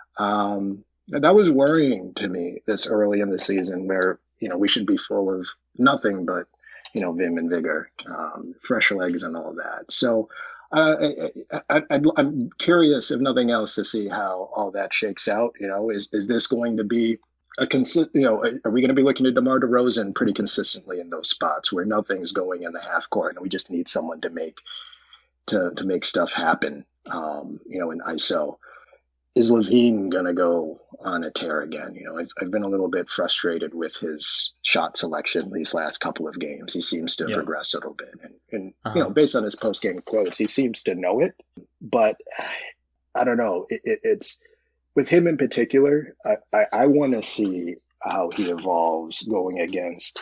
Um, that was worrying to me this early in the season, where, you know, we should be full of nothing but, you know, vim and vigor, um, fresh legs and all that. So uh, I, I, I, I'm curious, if nothing else, to see how all that shakes out. You know, is, is this going to be a consi- you know, are we going to be looking at DeMar DeRozan pretty consistently in those spots where nothing's going in the half court and we just need someone to make to, to make stuff happen, um, you know, in I S O. is LaVine going to go on a tear again? You know, I've, I've been a little bit frustrated with his shot selection these last couple of games. He seems to have yeah. regressed a little bit. And, and uh-huh. you know, based on his post-game quotes, he seems to know it. But I don't know. It, it, it's with him in particular, I, I, I want to see how he evolves going against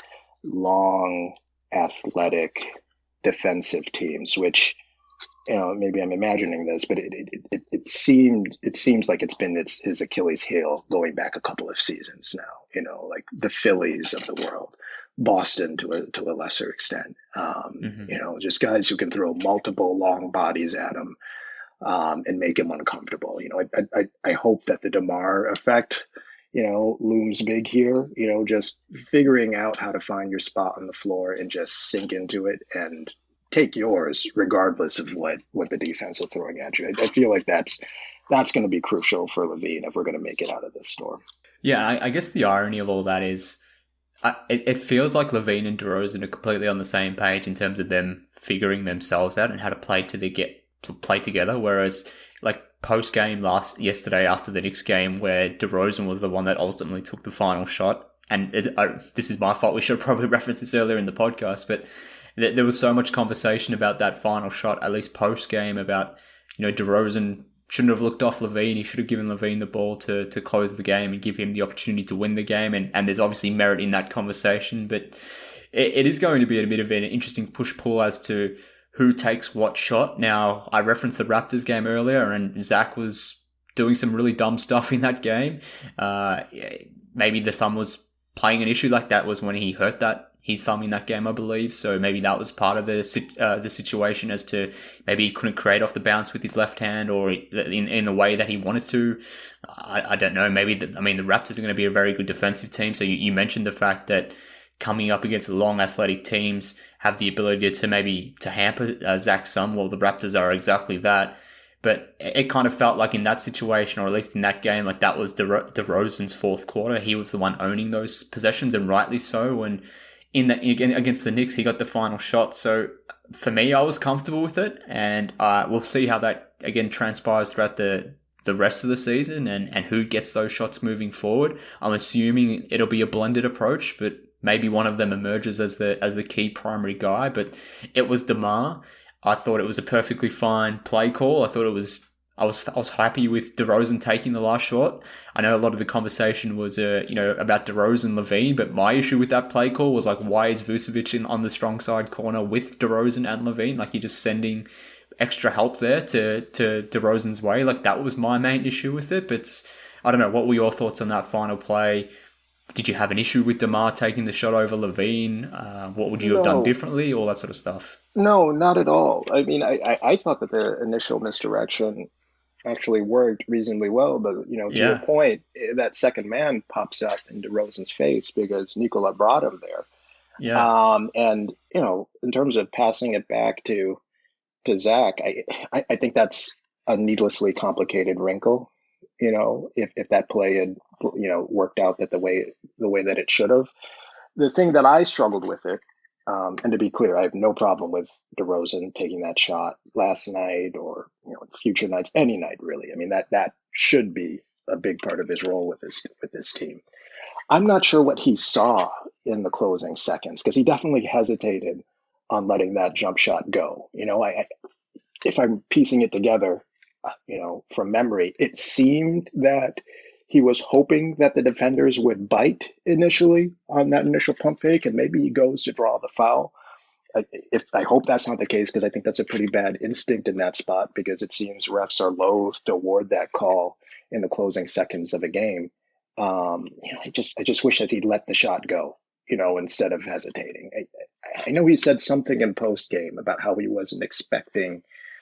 long, athletic, defensive teams, which, you know, maybe I'm imagining this, but it it, it, it seemed it seems like it's been its, his Achilles heel going back a couple of seasons now. You know, like the Phillies of the world, Boston to a to a lesser extent. Um, mm-hmm. You know, just guys who can throw multiple long bodies at him um, and make him uncomfortable. You know, I, I I hope that the DeMar effect, you know, looms big here. You know, just figuring out how to find your spot on the floor and just sink into it and take yours regardless of what, what the defense is throwing at you. I, I feel like that's that's going to be crucial for LaVine if we're going to make it out of this storm. Yeah, I, I guess the irony of all that is I, it, it feels like LaVine and DeRozan are completely on the same page in terms of them figuring themselves out and how to play to the get play together. Whereas like post game last yesterday after the Knicks game, where DeRozan was the one that ultimately took the final shot, and it, I, this is my fault. We should have probably referenced this earlier in the podcast, but there was so much conversation about that final shot, at least post-game, about, you know, DeRozan shouldn't have looked off LaVine. He should have given LaVine the ball to to close the game and give him the opportunity to win the game. And, and there's obviously merit in that conversation. But it, it is going to be a bit of an interesting push-pull as to who takes what shot. Now, I referenced the Raptors game earlier, and Zach was doing some really dumb stuff in that game. Uh, maybe the thumb was playing an issue like that was when he hurt that his thumb in that game, I believe. So maybe that was part of the uh, the situation as to maybe he couldn't create off the bounce with his left hand or in in the way that he wanted to. I, I don't know. Maybe, the, I mean, the Raptors are going to be a very good defensive team. So you, you mentioned the fact that coming up against long athletic teams have the ability to maybe to hamper uh, Zach some. Well, the Raptors are exactly that. But it kind of felt like in that situation, or at least in that game, like that was DeRo- DeRozan's fourth quarter. He was the one owning those possessions, and rightly so. And in the, against the Knicks, he got the final shot. So for me, I was comfortable with it. And uh, we'll see how that, again, transpires throughout the, the rest of the season and, and who gets those shots moving forward. I'm assuming it'll be a blended approach, but maybe one of them emerges as the as the key primary guy. But it was DeMar. I thought it was a perfectly fine play call. I thought it was... I was I was happy with DeRozan taking the last shot. I know a lot of the conversation was, uh, you know, about DeRozan, LaVine, but my issue with that play call was like, why is Vucevic in on the strong side corner with DeRozan and LaVine? Like, you're just sending extra help there to to DeRozan's way. Like, that was my main issue with it. But I don't know. What were your thoughts on that final play? Did you have an issue with DeMar taking the shot over LaVine? Uh, what would you no. have done differently? All that sort of stuff. No, not at all. I mean, I, I, I thought that the initial misdirection actually worked reasonably well, but you know, to yeah. your point, that second man pops up in DeRozan's face because Nikola brought him there. Yeah. Um, and you know, in terms of passing it back to to Zach, I, I I think that's a needlessly complicated wrinkle. You know, if if that play had you know worked out that the way the way that it should have, the thing that I struggled with it. Um, and to be clear, I have no problem with DeRozan taking that shot last night or you know future nights, any night really. I mean that that should be a big part of his role with this with this team. I'm not sure what he saw in the closing seconds because he definitely hesitated on letting that jump shot go. You know, I, I if I'm piecing it together, uh, you know, from memory, it seemed that he was hoping that the defenders would bite initially on that initial pump fake, and maybe he goes to draw the foul. I, if I hope that's not the case, because I think that's a pretty bad instinct in that spot, because it seems refs are loath to award that call in the closing seconds of a game. Um, you know, I just I just wish that he'd let the shot go, you know, instead of hesitating. I, I know he said something in post game about how he wasn't expecting,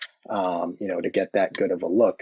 um, you know, to get that good of a look.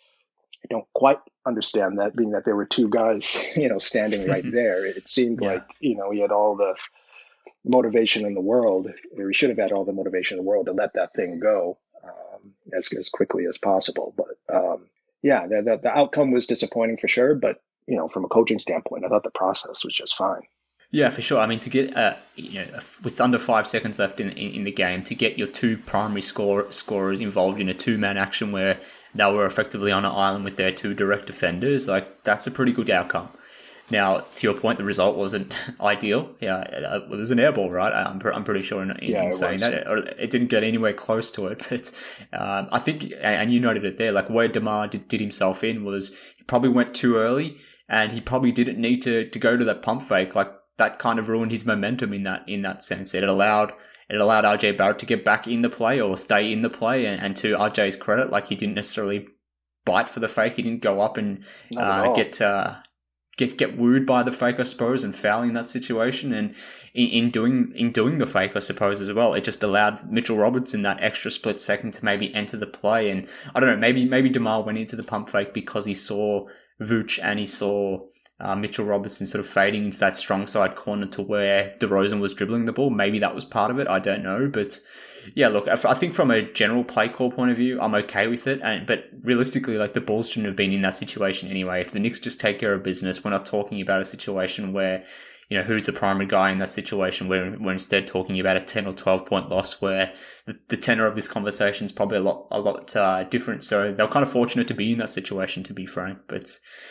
I don't quite understand that, being that there were two guys, you know, standing right there. It seemed yeah. like, you know, he had all the motivation in the world, or he should have had all the motivation in the world to let that thing go um, as, as quickly as possible. But um, yeah, the, the, the outcome was disappointing for sure. But, you know, from a coaching standpoint, I thought the process was just fine. Yeah, for sure. I mean, to get, uh, you know, with under five seconds left in, in, in the game, to get your two primary score, scorers involved in a two-man action where they were effectively on an island with their two direct defenders. Like, that's a pretty good outcome. Now, to your point, the result wasn't ideal. Yeah, it was an airball, right? I'm, I'm pretty sure in, in, yeah, in it saying was. that. It, it didn't get anywhere close to it. But um, I think, and you noted it there, like where Demar did, did himself in was he probably went too early and he probably didn't need to, to go to that pump fake. Like, that kind of ruined his momentum in that in that sense. It allowed it allowed R J Barrett to get back in the play or stay in the play. And, and to R J's credit, like he didn't necessarily bite for the fake. He didn't go up and uh, get... Uh, Get get wooed by the fake, I suppose, and foul in that situation. And in, in doing in doing the fake, I suppose, as well, it just allowed Mitchell Robertson that extra split second to maybe enter the play. And I don't know, maybe maybe DeMar went into the pump fake because he saw Vooch and he saw uh, Mitchell Robertson sort of fading into that strong side corner to where DeRozan was dribbling the ball. Maybe that was part of it. I don't know, but. Yeah, look, I think from a general play call point of view, I'm okay with it. And but realistically, like the Bulls shouldn't have been in that situation anyway. If the Knicks just take care of business, we're not talking about a situation where, you know, who's the primary guy in that situation. We're, we're instead talking about a ten or twelve point loss where the, the tenor of this conversation is probably a lot, a lot uh, different. So they're kind of fortunate to be in that situation, to be frank. But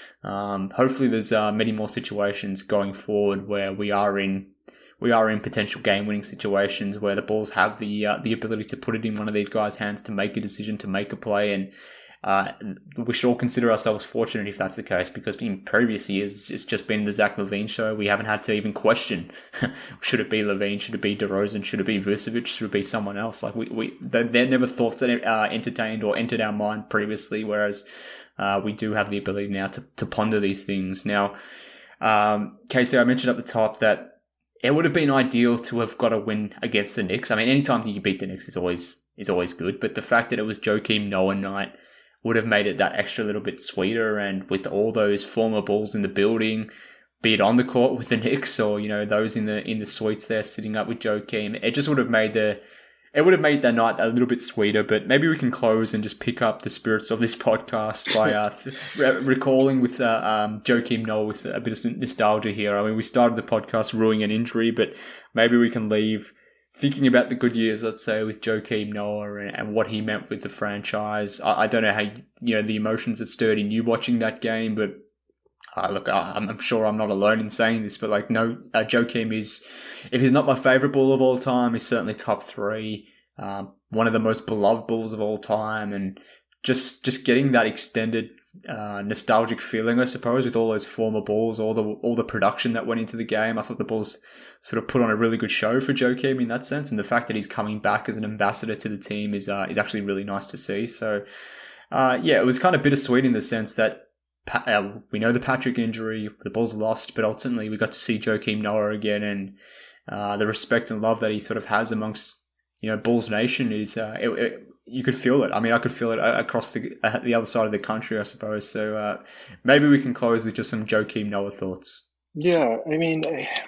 um, hopefully there's uh, many more situations going forward where we are in We are in potential game-winning situations where the Bulls have the uh, the ability to put it in one of these guys' hands to make a decision, to make a play, and uh, we should all consider ourselves fortunate if that's the case, because in previous years it's just been the Zach LaVine show. We haven't had to even question should it be LaVine, should it be DeRozan, should it be Vucevic, should it be someone else. Like we we they're never thoughts that uh, entertained or entered our mind previously, whereas uh, we do have the ability now to to ponder these things. Now, um, Casey, I mentioned at the top that it would have been ideal to have got a win against the Knicks. I mean, anytime you beat the Knicks is always is always good, but the fact that it was Joakim Noah night would have made it that extra little bit sweeter. And with all those former Bulls in the building, be it on the court with the Knicks or, you know, those in the in the suites there sitting up with Joakim, it just would have made the it would have made that night a little bit sweeter. But maybe we can close and just pick up the spirits of this podcast by uh, th- re- recalling with uh, um, Joakim Noah with a bit of nostalgia here. I mean, we started the podcast ruining an injury, but maybe we can leave thinking about the good years, let's say, with Joakim Noah and, and what he meant with the franchise. I, I don't know how, you know, the emotions that stirred in you watching that game, but Uh, look, I, I'm sure I'm not alone in saying this, but like, no, uh, Joakim is, if he's not my favorite Bull of all time, he's certainly top three. Um, one of the most beloved Bulls of all time, and just just getting that extended uh, nostalgic feeling, I suppose, with all those former Bulls, all the all the production that went into the game. I thought the Bulls sort of put on a really good show for Joakim in that sense, and the fact that he's coming back as an ambassador to the team is uh, is actually really nice to see. So, uh, yeah, it was kind of bittersweet in the sense that. Uh, we know the Patrick injury, the Bulls lost, but ultimately we got to see Joakim Noah again, and uh, the respect and love that he sort of has amongst, you know, Bulls Nation is, uh, it, it, you could feel it. I mean, I could feel it across the uh, the other side of the country, I suppose. So uh, maybe we can close with just some Joakim Noah thoughts. Yeah, I mean,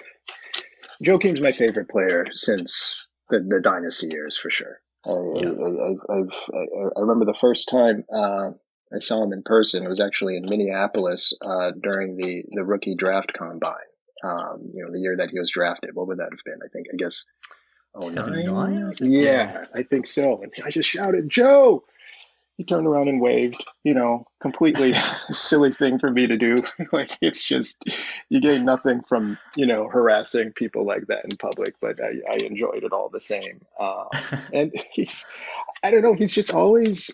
Joakim's my favorite player since the, the dynasty years, for sure. I, yeah. I, I've, I've, I remember the first time uh, I saw him in person. It was actually in Minneapolis uh, during the, the rookie draft combine. Um, you know, the year that he was drafted. What would that have been? I think, I guess, oh nine? Yeah, I think so. And I just shouted, Joe! He turned around and waved, you know, completely silly thing for me to do. Like, it's just, you gain nothing from, you know, harassing people like that in public, but I, I enjoyed it all the same. Uh, and he's, I don't know, he's just always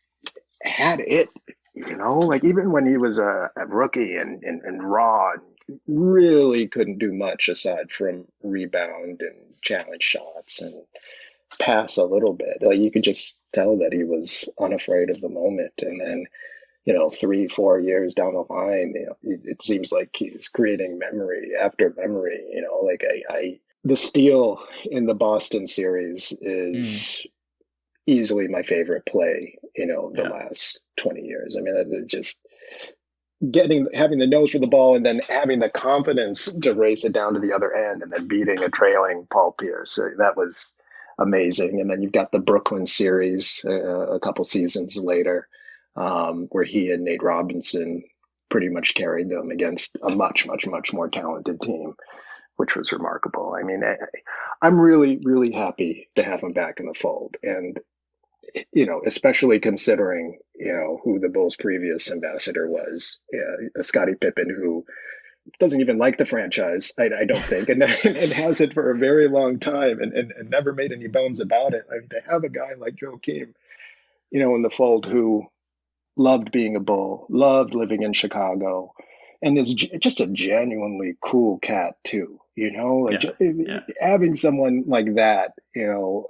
had it, you know, like even when he was a, a rookie and, and, and raw, really couldn't do much aside from rebound and challenge shots and pass a little bit. Like, you could just tell that he was unafraid of the moment. And then, you know, three, four years down the line, you know, it, it seems like he's creating memory after memory. You know, like I, I the steal in the Boston series is mm. easily my favorite play, you know, the yeah. last twenty years. I mean, that just getting, having the nose for the ball and then having the confidence to race it down to the other end and then beating a trailing Paul Pierce. That was amazing. And then you've got the Brooklyn series uh, a couple seasons later, um, where he and Nate Robinson pretty much carried them against a much, much, much more talented team, which was remarkable. I mean, I, I'm really, really happy to have him back in the fold. And you know, especially considering, you know, who the Bulls' previous ambassador was, uh, Scottie Pippen, who doesn't even like the franchise, I, I don't think, and, and has it for a very long time and, and, and never made any bones about it. I mean, to have a guy like Joakim, you know, in the fold who loved being a Bull, loved living in Chicago, and is g- just a genuinely cool cat too, you know, like Yeah, ju- yeah. having someone like that, you know,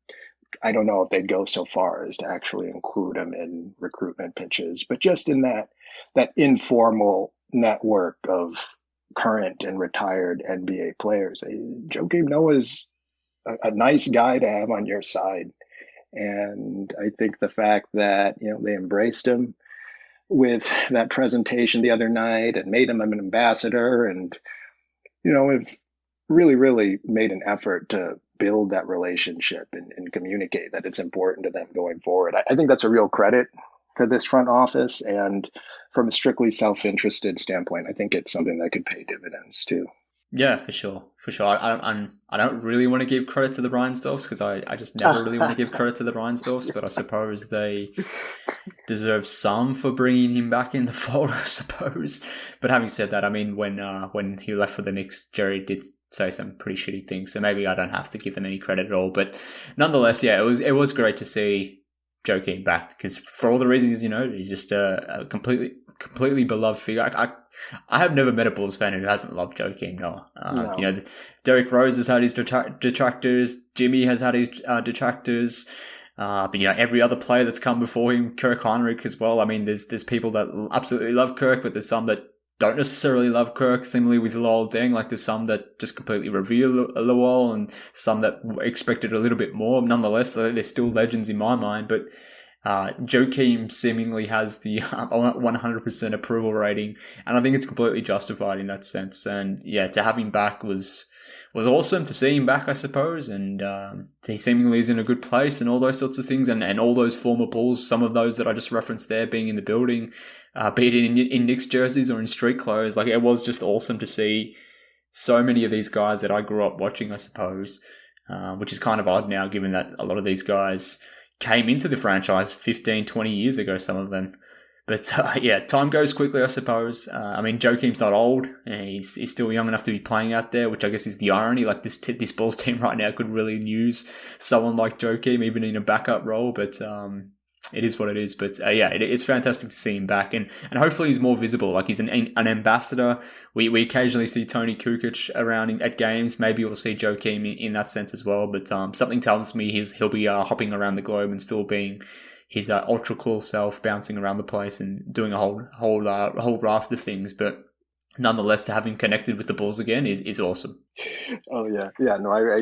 I don't know if they'd go so far as to actually include him in recruitment pitches, but just in that that informal network of current and retired N B A players, Joakim Noah's a, a nice guy to have on your side. And I think the fact that, you know, they embraced him with that presentation the other night and made him an ambassador, and, you know, have really, really made an effort to build that relationship and, and communicate that it's important to them going forward. I, I think that's a real credit to this front office. And from a strictly self-interested standpoint, I think it's something that could pay dividends too. Yeah, for sure, for sure. I, I, I'm, I don't really want to give credit to the Reinsdorfs because I, I just never really want to give credit to the Reinsdorfs, but I suppose they deserve some for bringing him back in the fold, I suppose. But having said that, I mean, when uh, when he left for the Knicks, Jerry did say some pretty shitty things, so maybe I don't have to give him any credit at all. But nonetheless, yeah, it was it was great to see Joakim back because for all the reasons, you know, he's just a, a completely completely beloved figure. I, I I have never met a Bulls fan who hasn't loved Joakim Noah. Uh, No. You know, Derrick Rose has had his detra- detractors. Jimmy has had his uh, detractors. Uh, but you know, every other player that's come before him, Kirk Heinrich as well. I mean, there's there's people that absolutely love Kirk, but there's some that don't necessarily love Kirk. Similarly with Luol Deng, like there's some that just completely revere Luol, and some that expected a little bit more. Nonetheless, they're still legends in my mind. But uh, Joakim seemingly has the one hundred percent approval rating, and I think it's completely justified in that sense. And yeah, to have him back was was awesome. To see him back, I suppose, and um, he seemingly is in a good place and all those sorts of things. And, and all those former Bulls, some of those that I just referenced there, being in the building, uh, be it in, in Knicks jerseys or in street clothes. Like, it was just awesome to see so many of these guys that I grew up watching, I suppose, uh, which is kind of odd now, given that a lot of these guys came into the franchise fifteen, twenty years ago, some of them. But uh, yeah, time goes quickly, I suppose. Uh, I mean, Joakim's not old. He's he's still young enough to be playing out there, which I guess is the irony. Like, this t- this Bulls team right now could really use someone like Joakim, even in a backup role. But um, it is what it is. But uh, yeah, it, it's fantastic to see him back, and, and hopefully he's more visible. Like, he's an an ambassador. We we occasionally see Tony Kukoc around in, at games. Maybe we'll see Joakim in, in that sense as well. But um, something tells me he's he'll be uh, hopping around the globe and still being his uh, ultra cool self, bouncing around the place and doing a whole whole uh, whole raft of things. But nonetheless, to have him connected with the Bulls again is, is awesome. Oh yeah, yeah. No, I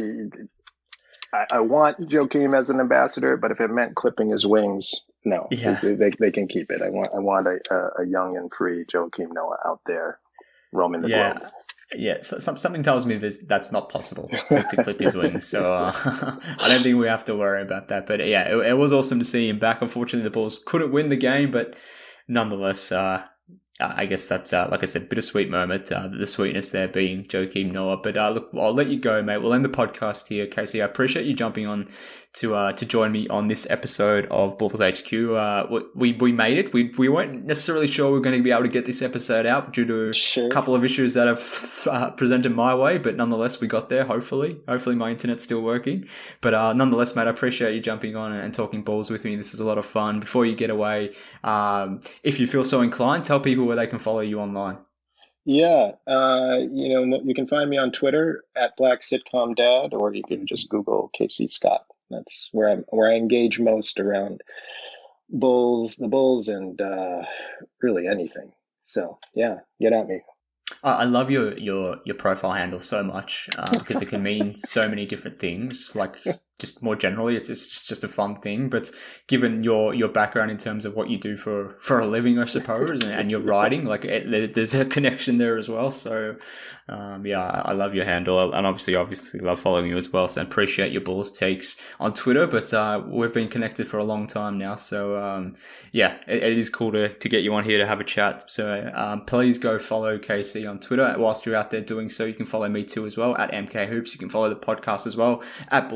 I, I want Joakim as an ambassador, but if it meant clipping his wings, no, Yeah. they, they they can keep it. I want I want a a young and free Joakim Noah out there roaming the Yeah. globe. Yeah, so, some, something tells me this, that's not possible to, to clip his wings. So uh, I don't think we have to worry about that. But yeah, it, it was awesome to see him back. Unfortunately, the Bulls couldn't win the game, but nonetheless, uh, I guess that's, uh, like I said, bittersweet moment. Uh, the sweetness there being Joakim Noah. But uh, look, I'll let you go, mate. We'll end the podcast here, Casey. I appreciate you jumping on to uh, to join me on this episode of Bulls H Q. Uh, we we made it. We we weren't necessarily sure we were going to be able to get this episode out due to Sure. a couple of issues that have uh, presented my way, but nonetheless, we got there. Hopefully, hopefully my internet's still working. But uh, nonetheless, mate, I appreciate you jumping on and talking Bulls with me. This is a lot of fun. Before you get away, um, if you feel so inclined, tell people where they can follow you online. Yeah, uh, you know, you can find me on Twitter at Black Sitcom Dad, or you can just Google Casey Scott. That's where I'm where I engage most around Bulls, the Bulls, and uh, really anything. So yeah, get at me. I love your, your, your profile handle so much uh, because it can mean so many different things. Like, just more generally, it's it's just, just a fun thing. But given your, your background in terms of what you do for, for a living, I suppose, and, and your writing, like it, there's a connection there as well. So um, yeah, I, I love your handle, and obviously, obviously love following you as well. So I appreciate your Bulls takes on Twitter. But uh, we've been connected for a long time now, so um, yeah, it, it is cool to to get you on here to have a chat. So um, please go follow Casey on Twitter. Whilst you're out there doing so, you can follow me too as well at M K Hoops. You can follow the podcast as well at Bulls H Q.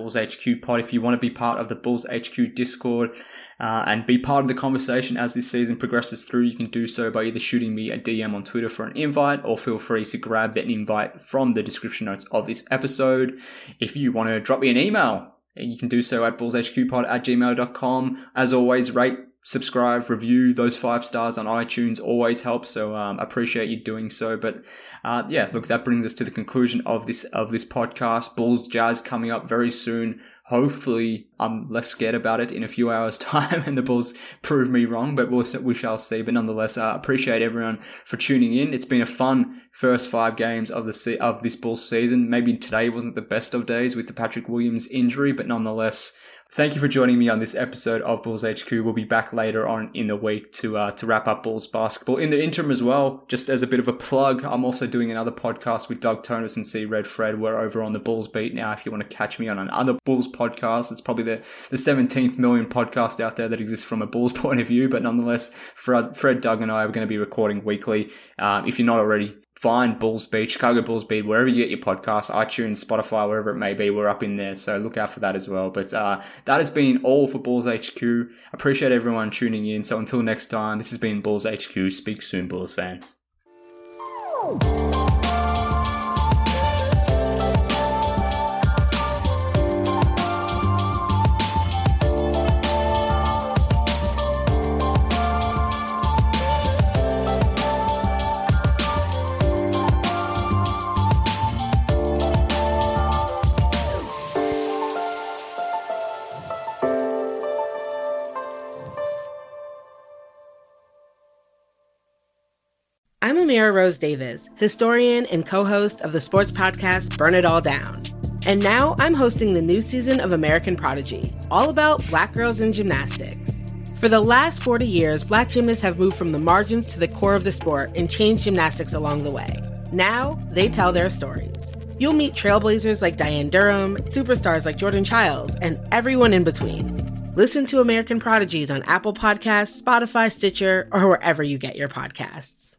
Q pod. If you want to be part of the Bulls H Q Discord uh, and be part of the conversation as this season progresses through, you can do so by either shooting me a D M on Twitter for an invite, or feel free to grab that invite from the description notes of this episode. If you want to drop me an email, you can do so at bullshqpod at gmail dot com. As always, rate, subscribe, review. Those five stars on iTunes always help, so um, appreciate you doing so. But uh, yeah, look, that brings us to the conclusion of this of this podcast. Bulls Jazz coming up very soon. Hopefully, I'm less scared about it in a few hours' time, and the Bulls prove me wrong, but we'll, we shall see. But nonetheless, I uh, appreciate everyone for tuning in. It's been a fun first five games of the se- of this Bulls season. Maybe today wasn't the best of days with the Patrick Williams injury, but nonetheless, thank you for joining me on this episode of Bulls H Q. We'll be back later on in the week to uh, to wrap up Bulls basketball. In the interim as well, just as a bit of a plug, I'm also doing another podcast with Doug Tonus and C. Red Fred. We're over on the Bulls Beat now. If you want to catch me on another Bulls podcast, it's probably the, the seventeenth million podcast out there that exists from a Bulls point of view. But nonetheless, Fred, Fred Doug, and I are going to be recording weekly. Um, if you're not already, find Bulls Beat, Chicago Bulls Beat, wherever you get your podcasts, iTunes, Spotify, wherever it may be, we're up in there. So look out for that as well. But uh, that has been all for Bulls H Q. Appreciate everyone tuning in. So until next time, this has been Bulls H Q. Speak soon, Bulls fans. I'm Amira Rose Davis, historian and co-host of the sports podcast Burn It All Down. And now I'm hosting the new season of American Prodigy, all about Black girls in gymnastics. For the last forty years, Black gymnasts have moved from the margins to the core of the sport and changed gymnastics along the way. Now, they tell their stories. You'll meet trailblazers like Diane Durham, superstars like Jordan Childs, and everyone in between. Listen to American Prodigies on Apple Podcasts, Spotify, Stitcher, or wherever you get your podcasts.